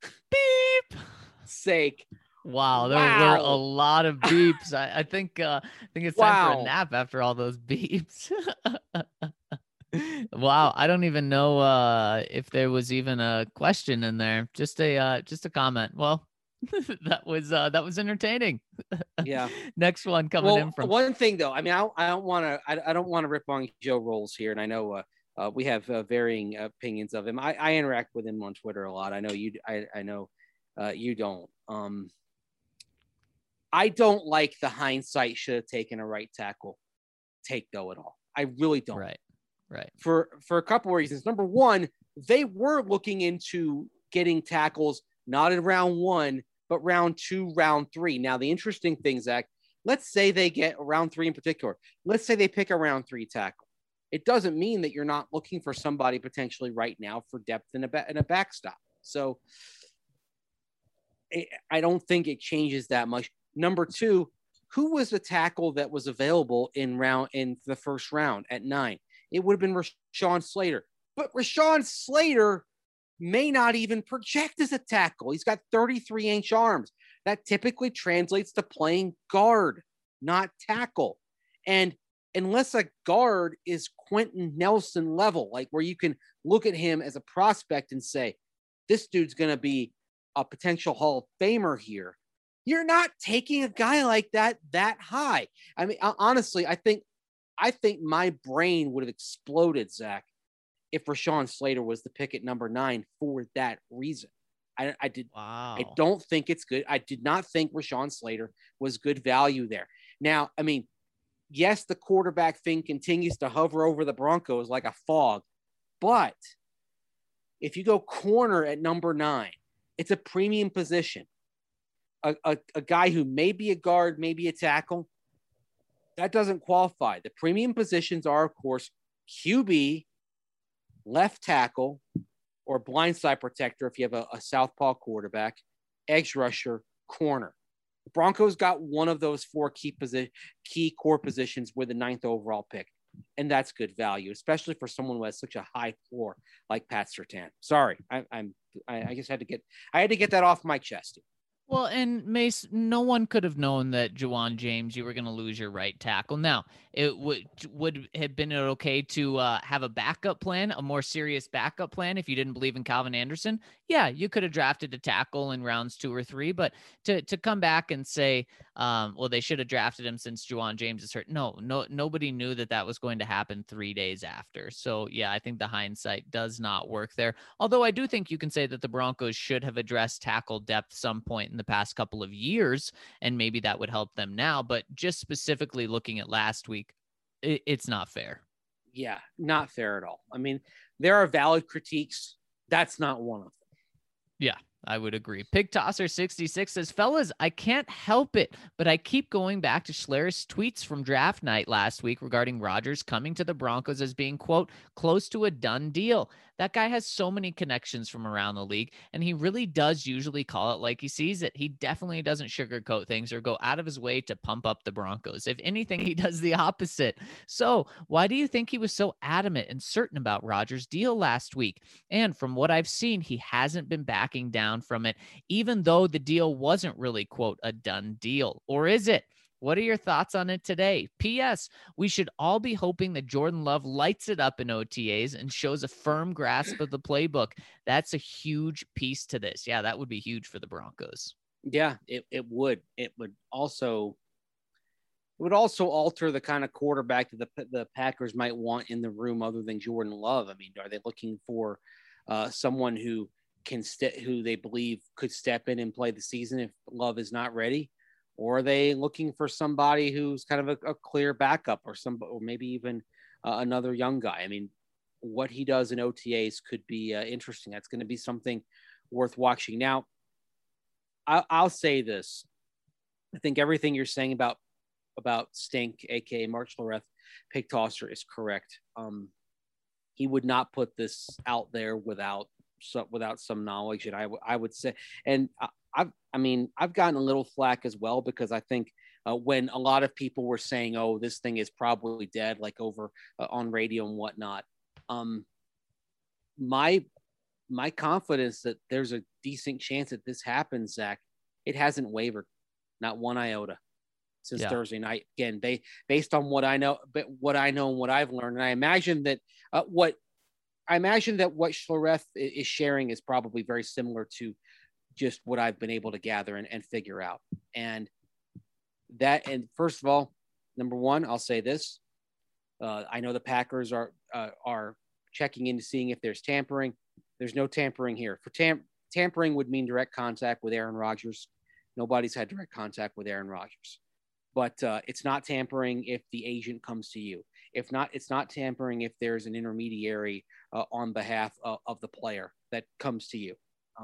Speaker 3: sake.
Speaker 1: Wow, there were a lot of beeps. I think it's time for a nap after all those beeps. Wow, I don't even know if there was even a question in there. Just a comment. Well, that was entertaining.
Speaker 3: Yeah.
Speaker 1: Next one coming in
Speaker 3: Well,
Speaker 1: from
Speaker 3: one thing though, I mean, I don't want to, I don't want to rip on Joe Rolls here, and I know we have varying opinions of him. I interact with him on Twitter a lot. I know you, I know you don't. I don't like the hindsight should have taken a right tackle take though at all. I really don't.
Speaker 1: Right.
Speaker 3: For a couple of reasons. Number one, they were looking into getting tackles not in round 1, but round 2, round 3. Now, the interesting thing, Zach, let's say they get round 3 in particular. Let's say they pick a round 3 tackle. It doesn't mean that you're not looking for somebody potentially right now for depth in a backstop. So I don't think it changes that much. Number two, who was the tackle that was available in the first round at 9? It would have been Rashawn Slater. But Rashawn Slater may not even project as a tackle. He's got 33-inch arms. That typically translates to playing guard, not tackle. And unless a guard is Quentin Nelson level, like where you can look at him as a prospect and say, this dude's going to be a potential Hall of Famer here, you're not taking a guy like that high. I mean, honestly, I think my brain would have exploded, Zach, if Rashawn Slater was the pick at number 9 for that reason. Wow. I don't think it's good. I did not think Rashawn Slater was good value there. Now, I mean, yes, the quarterback thing continues to hover over the Broncos like a fog, but if you go corner at number 9, it's a premium position. A guy who may be a guard, maybe a tackle, that doesn't qualify. The premium positions are, of course, QB, left tackle, or blindside protector if you have a southpaw quarterback, edge rusher, corner. The Broncos got one of those 4 key core positions with the 9th overall pick, and that's good value, especially for someone who has such a high floor like Pat Surtain. Sorry, I just had to get that off my chest.
Speaker 1: Well, and Mace, no one could have known that Ja'Wuan James, you were going to lose your right tackle. Now, it would have been okay to have a backup plan, a more serious backup plan if you didn't believe in Calvin Anderson. Yeah, you could have drafted a tackle in rounds 2 or 3, but to come back and say, well, they should have drafted him since Ja'Wuan James is hurt. No, nobody knew that was going to happen 3 days after. So, yeah, I think the hindsight does not work there. Although I do think you can say that the Broncos should have addressed tackle depth some point in the past couple of years, and maybe that would help them now. But just specifically looking at last week, it's not fair.
Speaker 3: Yeah, not fair at all. I mean, there are valid critiques. That's not one of them.
Speaker 1: Yeah, I would agree. Pig Tosser 66 says, fellas, I can't help it, but I keep going back to Schler's tweets from draft night last week regarding Rodgers coming to the Broncos as being, quote, close to a done deal. That guy has so many connections from around the league, and he really does usually call it like he sees it. He definitely doesn't sugarcoat things or go out of his way to pump up the Broncos. If anything, he does the opposite. So why do you think he was so adamant and certain about Rodgers' deal last week? And from what I've seen, he hasn't been backing down from it, even though the deal wasn't really, quote, a done deal. Or is it? What are your thoughts on it today? P.S. We should all be hoping that Jordan Love lights it up in OTAs and shows a firm grasp of the playbook. That's a huge piece to this. Yeah, that would be huge for the Broncos.
Speaker 3: Yeah, it would. It would also alter the kind of quarterback that the Packers might want in the room other than Jordan Love. I mean, are they looking for someone who who they believe could step in and play the season if Love is not ready? Or are they looking for somebody who's kind of a clear backup or maybe even another young guy? I mean, what he does in OTAs could be interesting. That's going to be something worth watching. Now, I'll say this. I think everything you're saying about Stink, aka Mark Schlereth, Pig Tosser, is correct. He would not put this out there without some knowledge, and I would say, and I've gotten a little flack as well because I think when a lot of people were saying, "Oh, this thing is probably dead," like over on radio and whatnot, my confidence that there's a decent chance that this happens, Zach, it hasn't wavered, not one iota. since
Speaker 1: Yeah.
Speaker 3: Thursday night. Again, based on what I know, and what I've learned, and I imagine that what Schlereth is sharing is probably very similar to just what I've been able to gather and figure out. And first of all, number one, I'll say this. I know the Packers are checking into seeing if there's tampering. There's no tampering here. For tampering would mean direct contact with Aaron Rodgers. Nobody's had direct contact with Aaron Rodgers. But it's not tampering if the agent comes to you. If not, it's not tampering if there's an intermediary on behalf of the player that comes to you.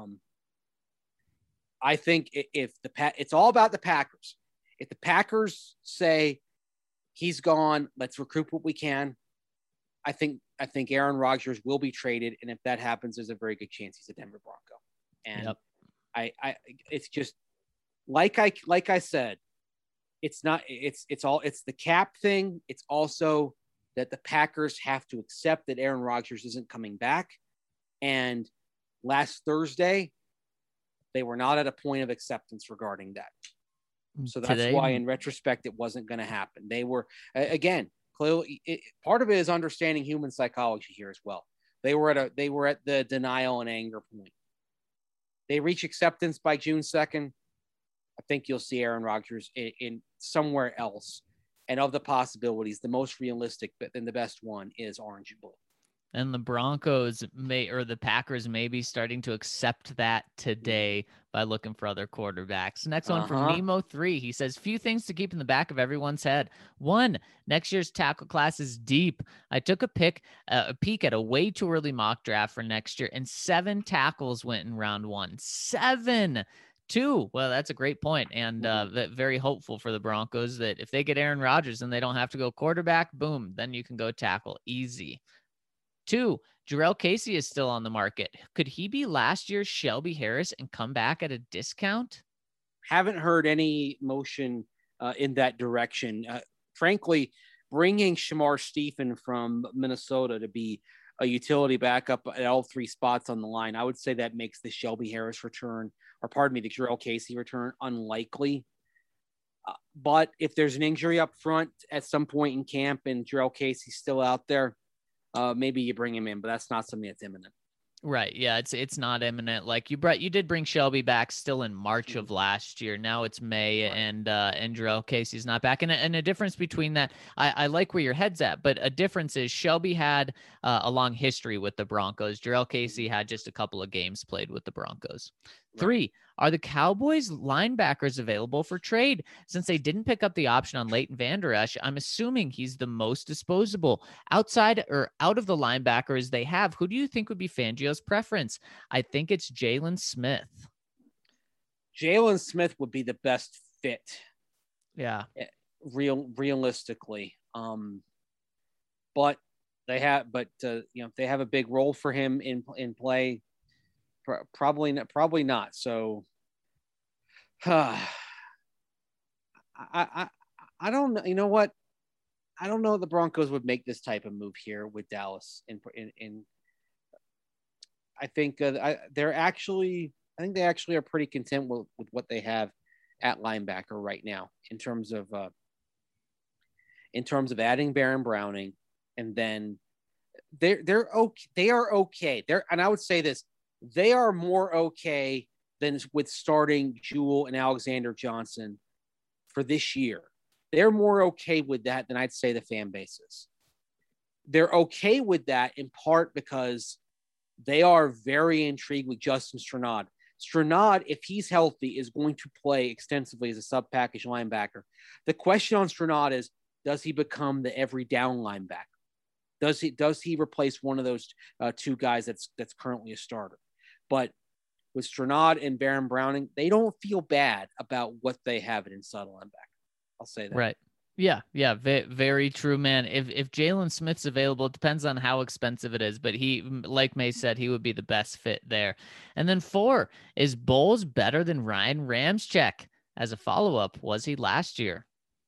Speaker 3: I think it's all about the Packers. If the Packers say he's gone, let's recruit what we can, I think Aaron Rodgers will be traded, and if that happens, there's a very good chance he's a Denver Bronco. And yep. It's just like I said, it's the cap thing. It's also that the Packers have to accept that Aaron Rodgers isn't coming back. And last Thursday, they were not at a point of acceptance regarding that. So that's why, in retrospect, it wasn't going to happen. They were, again, clearly, part of it is understanding human psychology here as well. They were at the denial and anger point. They reach acceptance by June 2nd. I think you'll see Aaron Rodgers in somewhere else. And of the possibilities, the most realistic and the best one is orange and blue.
Speaker 1: And the Broncos the Packers may be starting to accept that today by looking for other quarterbacks. Next one from Nemo3. He says, few things to keep in the back of everyone's head. One, next year's tackle class is deep. I took a peek at a way too early mock draft for next year, and 7 tackles went in round 1. 7. 2. Well, that's a great point, and very hopeful for the Broncos that if they get Aaron Rodgers and they don't have to go quarterback, boom, then you can go tackle easy. 2, Jurrell Casey is still on the market. Could he be last year's Shelby Harris and come back at a discount?
Speaker 3: Haven't heard any motion in that direction. Frankly, bringing Shamar Stephen from Minnesota to be a utility backup at all 3 spots on the line, I would say that makes the Shelby Harris return, the Jurrell Casey return, unlikely. But if there's an injury up front at some point in camp and Jurrell Casey's still out there, maybe you bring him in, but that's not something that's imminent.
Speaker 1: Right. Yeah, it's not imminent. Like you did bring Shelby back still in March of last year. Now it's May, right. and Jurrell Casey's not back. And a difference between that, I like where your head's at, but a difference is Shelby had a long history with the Broncos. Jurrell Casey had just a couple of games played with the Broncos. Right. 3, are the Cowboys linebackers available for trade? Since they didn't pick up the option on Leighton Vander Esch, I'm assuming he's the most disposable. Outside or out of the linebackers they have, who do you think would be Fangio's preference? I think it's Jalen Smith.
Speaker 3: Jalen Smith would be the best fit.
Speaker 1: Yeah.
Speaker 3: Realistically. But they have a big role for him in play. Probably not. So, I don't know. You know what? I don't know if the Broncos would make this type of move here with Dallas. I think they actually are pretty content with what they have at linebacker right now in terms of adding Baron Browning, and then they're okay. They are okay. And I would say this. They are more okay than with starting Jewell and Alexander Johnson for this year. They're more okay with that than I'd say the fan base is. They're okay with that in part because they are very intrigued with Justin Strnad. Strnad, if he's healthy, is going to play extensively as a sub-package linebacker. The question on Strnad is, does he become the every down linebacker? Does he replace one of those 2 guys that's currently a starter? But with Strnad and Baron Browning, they don't feel bad about what they have at inside linebacker. I'll say that.
Speaker 1: Right. Yeah. Very true, man. If Jalen Smith's available, it depends on how expensive it is, but he, like May said, he would be the best fit there. And then 4, is Bowles better than Ryan Ramczyk? As a follow-up, was he last year?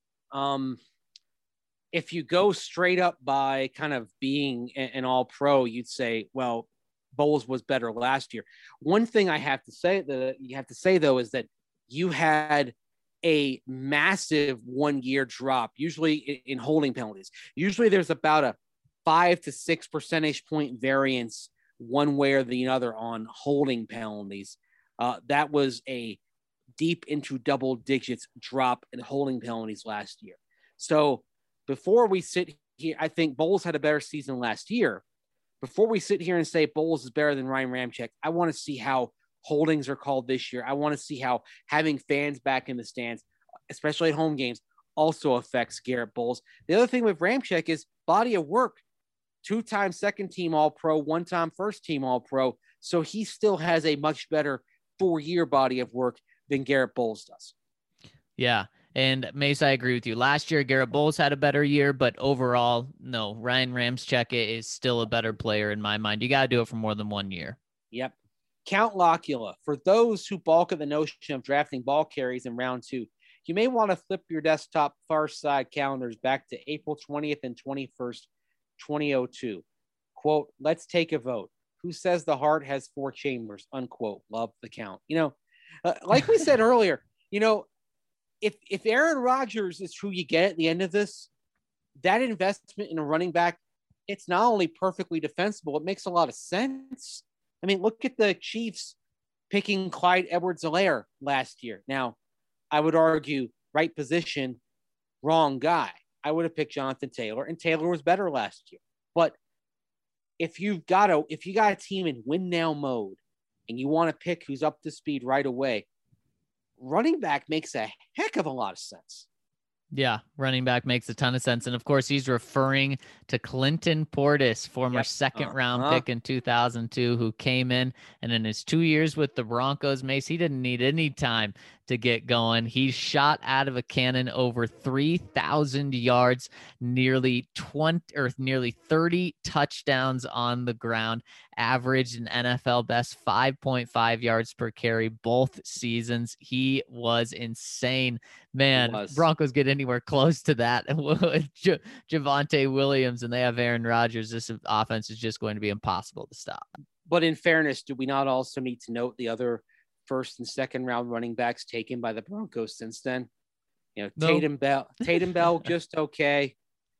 Speaker 3: If you go straight up by kind of being an all-pro, you'd say, well, Bowles was better last year. One thing you have to say though, is that you had a massive 1 year drop, usually in holding penalties. Usually there's about a 5 to 6 percentage point variance one way or the other on holding penalties. That was a deep into double digits drop in holding penalties last year. So before we sit here, I think Bowles had a better season last year. Before we sit here and say Bowles is better than Ryan Ramczyk, I want to see how holdings are called this year. I want to see how having fans back in the stands, especially at home games, also affects Garrett Bowles. The other thing with Ramczyk is body of work. 2-time second team All-Pro, 1-time first team All-Pro. So he still has a much better 4-year body of work than Garrett Bowles does.
Speaker 1: Yeah. And Mace, I agree with you. Last year, Garrett Bowles had a better year, but overall, no, Ryan Ramczyk is still a better player in my mind. You got to do it for more than 1 year.
Speaker 3: Yep. Count Locula. For those who balk at the notion of drafting ball carries in round 2, you may want to flip your desktop far side calendars back to April 20th and 21st, 2002. Quote, let's take a vote. Who says the heart has 4 chambers? Unquote. Love the count. Like we said earlier, if Aaron Rodgers is who you get at the end of this, that investment in a running back, it's not only perfectly defensible, it makes a lot of sense. I mean, look at the Chiefs picking Clyde Edwards-Helaire last year. Now, I would argue right position, wrong guy. I would have picked Jonathan Taylor, and Taylor was better last year. But if you got a team in win now mode and you want to pick who's up to speed right away, running back makes a heck of a lot of sense.
Speaker 1: Yeah, running back makes a ton of sense. And of course, he's referring to Clinton Portis, former second round pick in 2002, who came in and in his 2 years with the Broncos, Mace, he didn't need any time to get going. He shot out of a cannon over 3,000 yards, nearly 30 touchdowns on the ground, averaged an NFL best 5.5 yards per carry both seasons. He was insane. Man, Broncos get anywhere close to that with Javonte Williams, and they have Aaron Rodgers. This offense is just going to be impossible to stop.
Speaker 3: But in fairness, do we not also need to note the other first and second round running backs taken by the Broncos since then? No. Tatum Bell, just okay.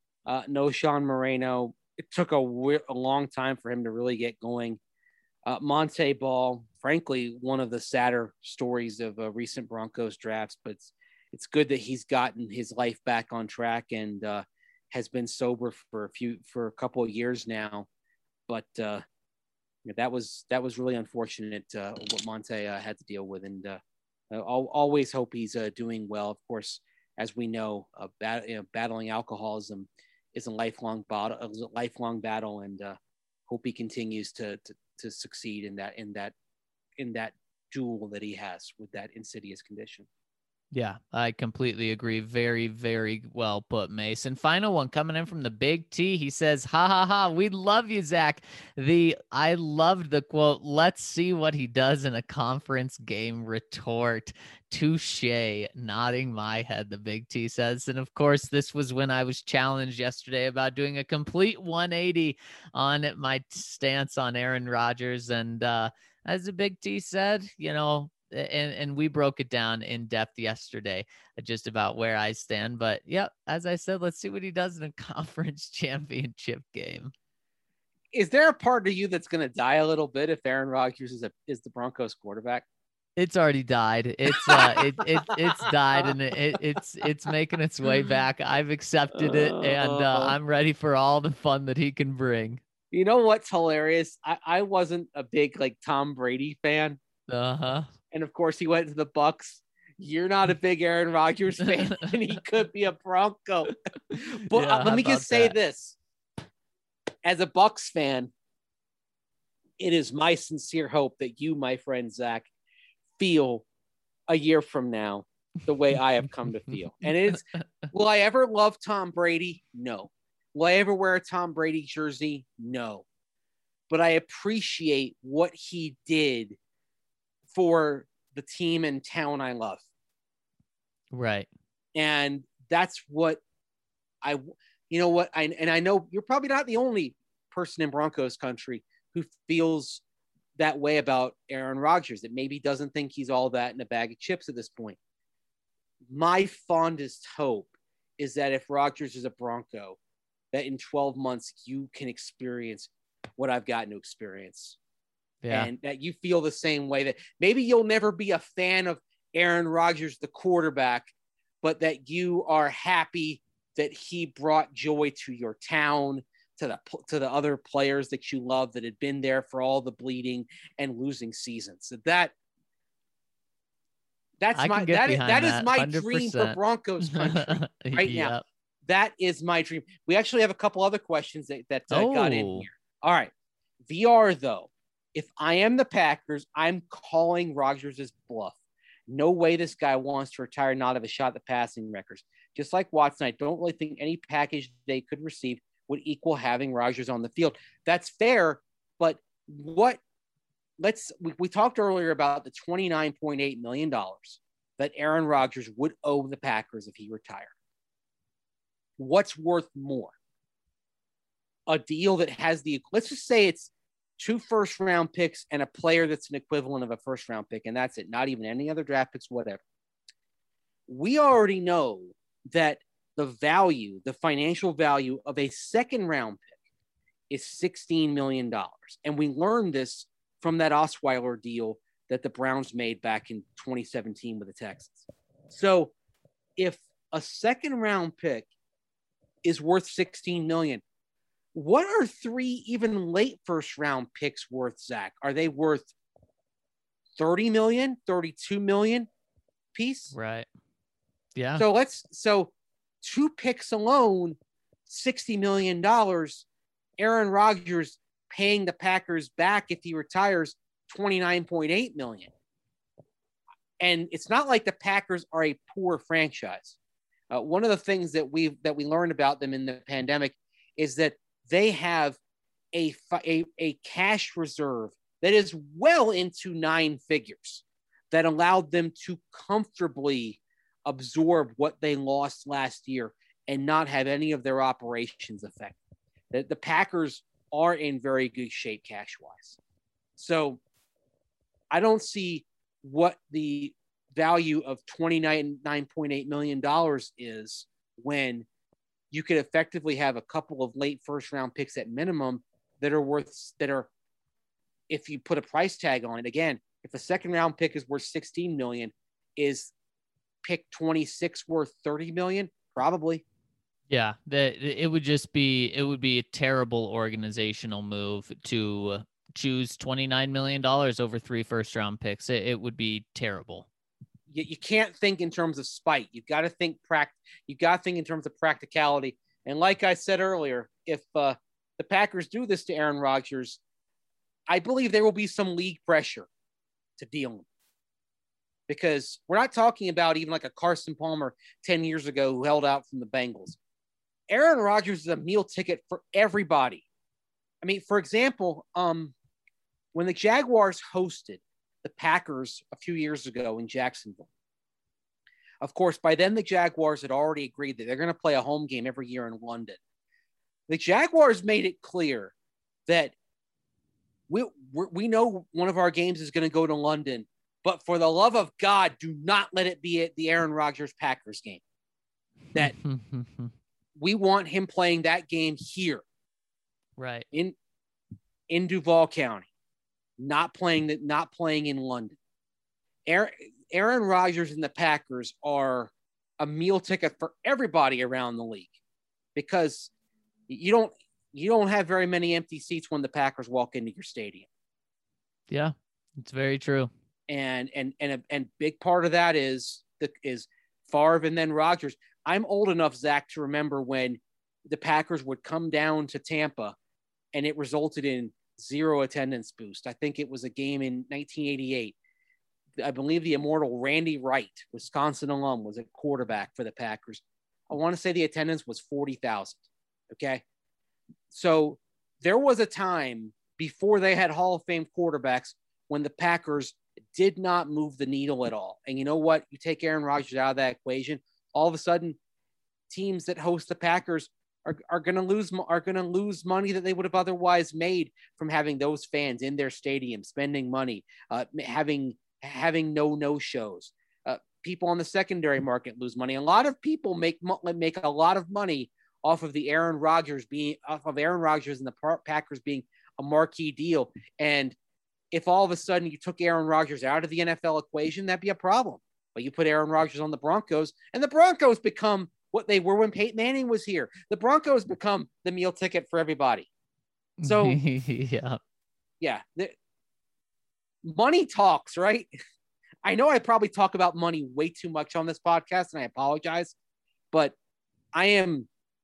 Speaker 3: No Sean Moreno. It took a long time for him to really get going. Monte Ball, frankly, one of the sadder stories of recent Broncos drafts, but it's good that he's gotten his life back on track and has been sober for a couple of years now. But that was really unfortunate what Monte had to deal with, and I'll always hope he's doing well. Of course, as we know, battling alcoholism is a lifelong battle, and hope he continues to succeed in that duel that he has with that insidious condition.
Speaker 1: Yeah, I completely agree. Very, very well put, Mason. Final one coming in from the Big T. He says, ha, ha, ha, we love you, Zach. I loved the quote, let's see what he does in a conference game retort. Touche, nodding my head, the Big T says. And of course, this was when I was challenged yesterday about doing a complete 180 on my stance on Aaron Rodgers. And as the Big T said, and we broke it down in depth yesterday, just about where I stand. But yeah, as I said, let's see what he does in a conference championship game.
Speaker 3: Is there a part of you that's going to die a little bit if Aaron Rodgers is the Broncos quarterback?
Speaker 1: It's already died. It's died, and it's making its way back. I've accepted it, and I'm ready for all the fun that he can bring.
Speaker 3: You know what's hilarious? I wasn't a big Tom Brady fan. And of course, he went to the Bucs. You're not a big Aaron Rodgers fan, and he could be a Bronco. But let me just say this. As a Bucs fan, it is my sincere hope that you, my friend Zach, feel a year from now the way I have come to feel. And will I ever love Tom Brady? No. Will I ever wear a Tom Brady jersey? No. But I appreciate what he did for the team and town I love.
Speaker 1: Right.
Speaker 3: And that's what I know you're probably not the only person in Broncos country who feels that way about Aaron Rodgers, that maybe doesn't think he's all that in a bag of chips at this point. my fondest hope is that if Rodgers is a Bronco, that in 12 months you can experience what I've gotten to experience.
Speaker 1: Yeah.
Speaker 3: And that you feel the same way, that maybe you'll never be a fan of Aaron Rodgers, the quarterback, but that you are happy that he brought joy to your town, to the other players that you love that had been there for all the bleeding and losing seasons. So that is my
Speaker 1: 100%.
Speaker 3: dream for Broncos country right now. That is my dream. We actually have a couple other questions that got in here. All right. VR, though, if I am the Packers, I'm calling Rodgers' bluff. No way this guy wants to retire, not have a shot at the passing records. Just like Watson, I don't really think any package they could receive would equal having Rodgers on the field. That's fair, but we talked earlier about the $29.8 million that Aaron Rodgers would owe the Packers if he retired. What's worth more? A deal that has let's just say it's 2 first-round picks and a player that's an equivalent of a first-round pick, and that's it. Not even any other draft picks, whatever. We already know that the financial value of a second-round pick is $16 million. And we learned this from that Osweiler deal that the Browns made back in 2017 with the Texans. So if a second-round pick is worth $16 million, what are 3 even late first-round picks worth, Zach? Are they worth $30 million, $32 million piece?
Speaker 1: Right. Yeah.
Speaker 3: So 2 picks alone, $60 million. Aaron Rodgers paying the Packers back if he retires $29.8 million. And it's not like the Packers are a poor franchise. One of the things that we learned about them in the pandemic is that they have a cash reserve that is well into 9 figures that allowed them to comfortably absorb what they lost last year and not have any of their operations affected. The Packers are in very good shape cash-wise. So I don't see what the value of $29.8 million is when you could effectively have a couple of late first-round picks at minimum that are, if you put a price tag on it, again, if a second-round pick is worth $16 million, is pick 26 worth $30 million? Probably.
Speaker 1: Yeah, it would be a terrible organizational move to choose $29 million over 3 first-round picks. It would be terrible.
Speaker 3: You can't think in terms of spite. You've got to think in terms of practicality. And like I said earlier, if the Packers do this to Aaron Rodgers, I believe there will be some league pressure to deal him. Because we're not talking about even like a Carson Palmer 10 years ago who held out from the Bengals. Aaron Rodgers is a meal ticket for everybody. I mean, for example, when the Jaguars hosted the Packers a few years ago in Jacksonville, of course, by then the Jaguars had already agreed that they're going to play a home game every year in London. The Jaguars made it clear that we know one of our games is going to go to London, but for the love of God, do not let it be at the Aaron Rodgers Packers game. That we want him playing that game here,
Speaker 1: right
Speaker 3: in Duval County, not playing in London. Aaron Rodgers and the Packers are a meal ticket for everybody around the league, because you don't have very many empty seats when the Packers walk into your stadium.
Speaker 1: Yeah, it's very true.
Speaker 3: And big part of that is Favre and then Rodgers. I'm old enough, Zach, to remember when the Packers would come down to Tampa and it resulted in 0 attendance boost. I think it was a game in 1988. I believe the immortal Randy Wright, Wisconsin alum, was a quarterback for the Packers. I want to say the attendance was 40,000. Okay. So there was a time before they had Hall of Fame quarterbacks when the Packers did not move the needle at all. And you know what? You take Aaron Rodgers out of that equation, all of a sudden teams that host the Packers are going to lose money that they would have otherwise made from having those fans in their stadium, spending money, having no shows. people on the secondary market lose money. A lot of people make a lot of money off of Aaron Rodgers and the Packers being a marquee deal. And if all of a sudden you took Aaron Rodgers out of the NFL equation, that'd be a problem. But you put Aaron Rodgers on the Broncos, and the Broncos become what they were when Peyton Manning was here. The Broncos become the meal ticket for everybody. So yeah, money talks, right? I know I probably talk about money way too much on this podcast, and I apologize, but the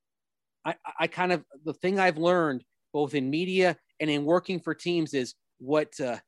Speaker 3: thing I've learned both in media and in working for teams is what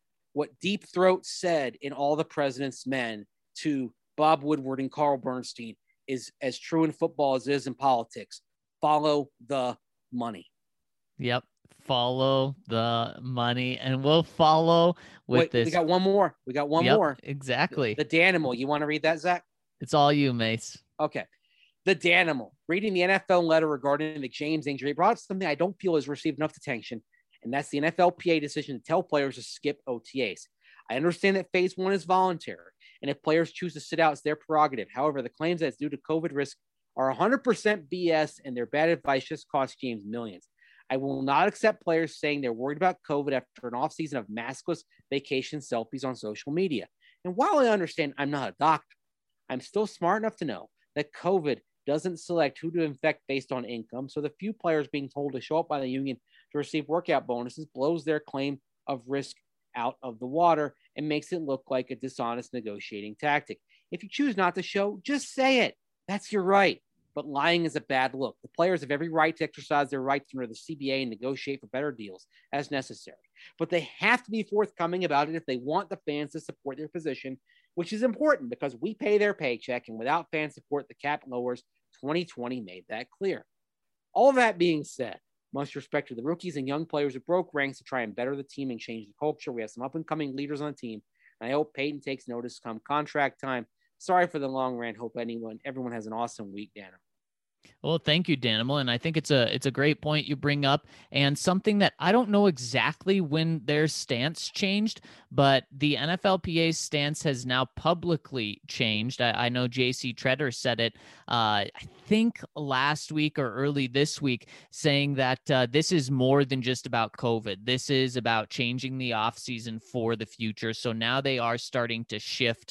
Speaker 3: Deep Throat said in All the President's Men to Bob Woodward and Carl Bernstein is as true in football as it is in politics. Follow the money.
Speaker 1: Yep. Follow the money, and we'll follow with this.
Speaker 3: We got one more. More.
Speaker 1: Exactly.
Speaker 3: The Danimal. You want to read that, Zach?
Speaker 1: It's all you, Mace.
Speaker 3: Okay. The Danimal. Reading the NFL letter regarding the James injury brought up something I don't feel has received enough attention, and that's the NFLPA decision to tell players to skip OTAs. I understand that phase 1 is voluntary, and if players choose to sit out, it's their prerogative. However, the claims that it's due to COVID risk are 100% BS, and their bad advice just cost James millions. I will not accept players saying they're worried about COVID after an offseason of maskless vacation selfies on social media. And while I understand I'm not a doctor, I'm still smart enough to know that COVID doesn't select who to infect based on income. So the few players being told to show up by the union to receive workout bonuses blows their claim of risk out of the water and makes it look like a dishonest negotiating tactic. If you choose not to show, just say it. That's your right. But lying is a bad look. The players have every right to exercise their rights under the CBA and negotiate for better deals as necessary. But they have to be forthcoming about it if they want the fans to support their position, which is important because we pay their paycheck, and without fan support, the cap lowers. 2020 made that clear. All that being said, much respect to the rookies and young players who broke ranks to try and better the team and change the culture. We have some up-and-coming leaders on the team, and I hope Peyton takes notice come contract time. Sorry for the long rant. Hope everyone has an awesome week, Dana.
Speaker 1: Well, thank you, Danimal. And I think it's a great point you bring up, and something that I don't know exactly when their stance changed, but the NFLPA's stance has now publicly changed. I know JC Treader said it, I think last week or early this week, saying that this is more than just about COVID. This is about changing the offseason for the future. So now they are starting to shift.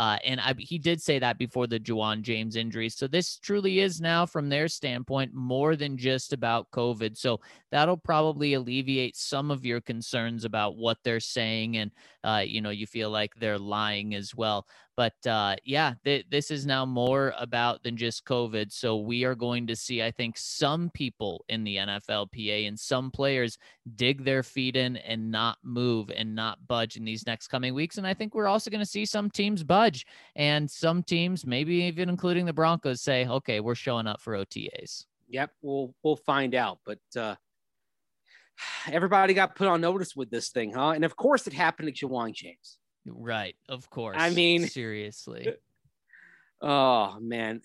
Speaker 1: He did say that before the Ja'Wuan James injury. So this truly is now, from their standpoint, more than just about COVID. So that'll probably alleviate some of your concerns about what they're saying. And, you feel like they're lying as well. But this is now more about than just COVID. So we are going to see, I think, some people in the NFLPA and some players dig their feet in and not move and not budge in these next coming weeks. And I think we're also going to see some teams budge, and some teams, maybe even including the Broncos, say, okay, we're showing up for OTAs.
Speaker 3: Yep, we'll find out. But everybody got put on notice with this thing, huh? And of course it happened to Ja'Wuan James.
Speaker 1: Right. Of course.
Speaker 3: I mean,
Speaker 1: seriously.
Speaker 3: Oh man,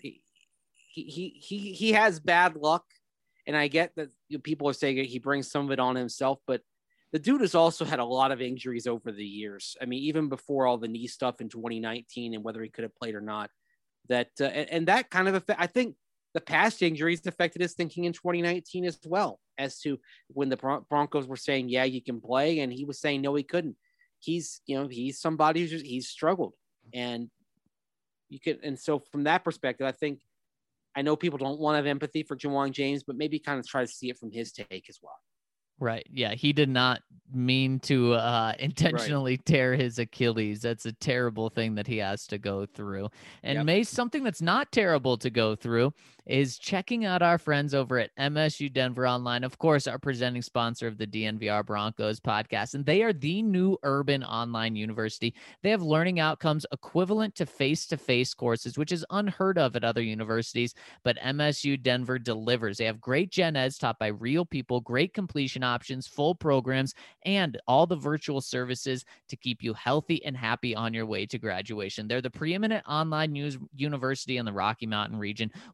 Speaker 3: he has bad luck, and I get that people are saying he brings some of it on himself, but the dude has also had a lot of injuries over the years. I mean, even before all the knee stuff in 2019 and whether he could have played or not, that kind of I think the past injuries affected his thinking in 2019 as well, as to when the Broncos were saying, yeah, you can play, and he was saying, no, he couldn't. He's somebody he's struggled, and so from that perspective, I know people don't want to have empathy for Ja'Wuan James, but maybe kind of try to see it from his take as well.
Speaker 1: Right. Yeah. He did not mean to intentionally tear his Achilles. That's a terrible thing that he has to go through. And Mace, something that's not terrible to go through is checking out our friends over at MSU Denver Online, of course, our presenting sponsor of the DNVR Broncos podcast. And they are the new urban online university. They have learning outcomes equivalent to face-to-face courses, which is unheard of at other universities, but MSU Denver delivers. They have great gen eds taught by real people, great completion options, full programs, and all the virtual services to keep you healthy and happy on your way to graduation. They're the preeminent online university in the Rocky Mountain region. Whether you're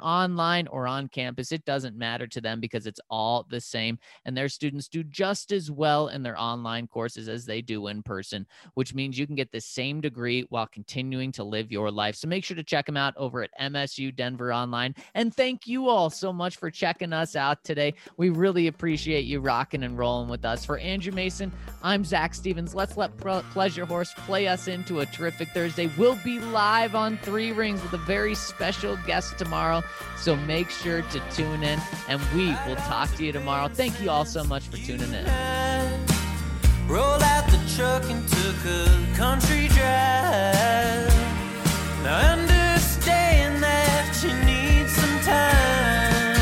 Speaker 1: online or on campus, it doesn't matter to them because it's all the same. And their students do just as well in their online courses as they do in person, which means you can get the same degree while continuing to live your life. So make sure to check them out over at MSU Denver Online. And thank you all so much for checking us out today. We really appreciate you rocking and rolling with us. For Andrew Mason, I'm Zach Stevens. Let's let Pleasure Horse play us into a terrific Thursday. We'll be live on Three Rings with a very special guest tomorrow. So make sure to tune in, and we will talk to you tomorrow. Thank you all so much for tuning in.
Speaker 2: Rolled out the truck and took a country drive. Now understand that you need some time.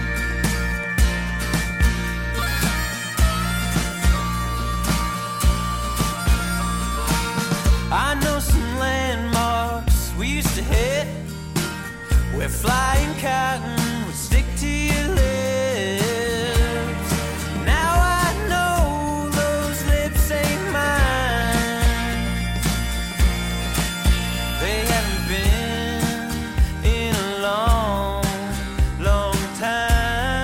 Speaker 2: I know some landmarks we used to hit, where flying cotton would stick to your lips. Now I know those lips ain't mine. They haven't been in a long, long time.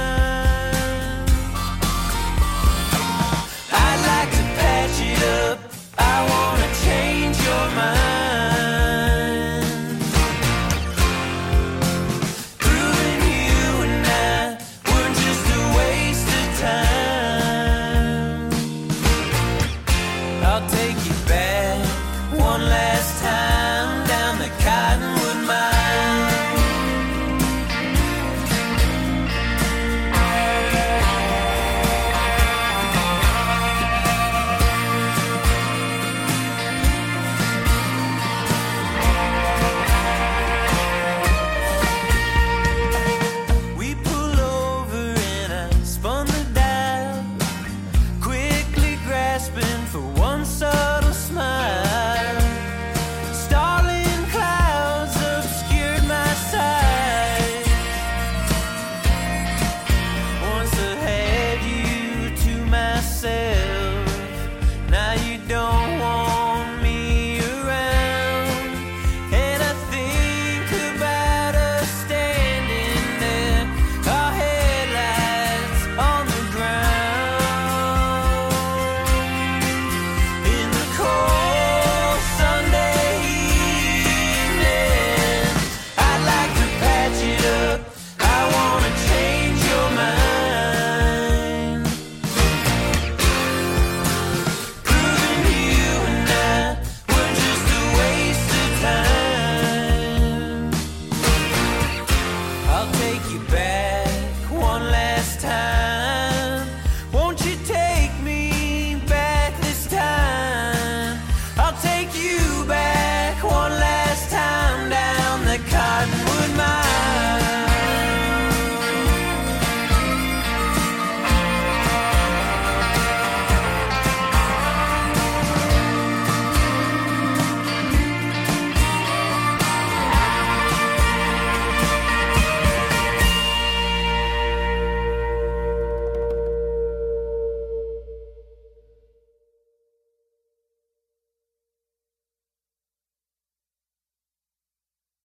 Speaker 2: I'd like to patch it up. I wanna change your mind. Proving you and I were just a waste of time. I'll take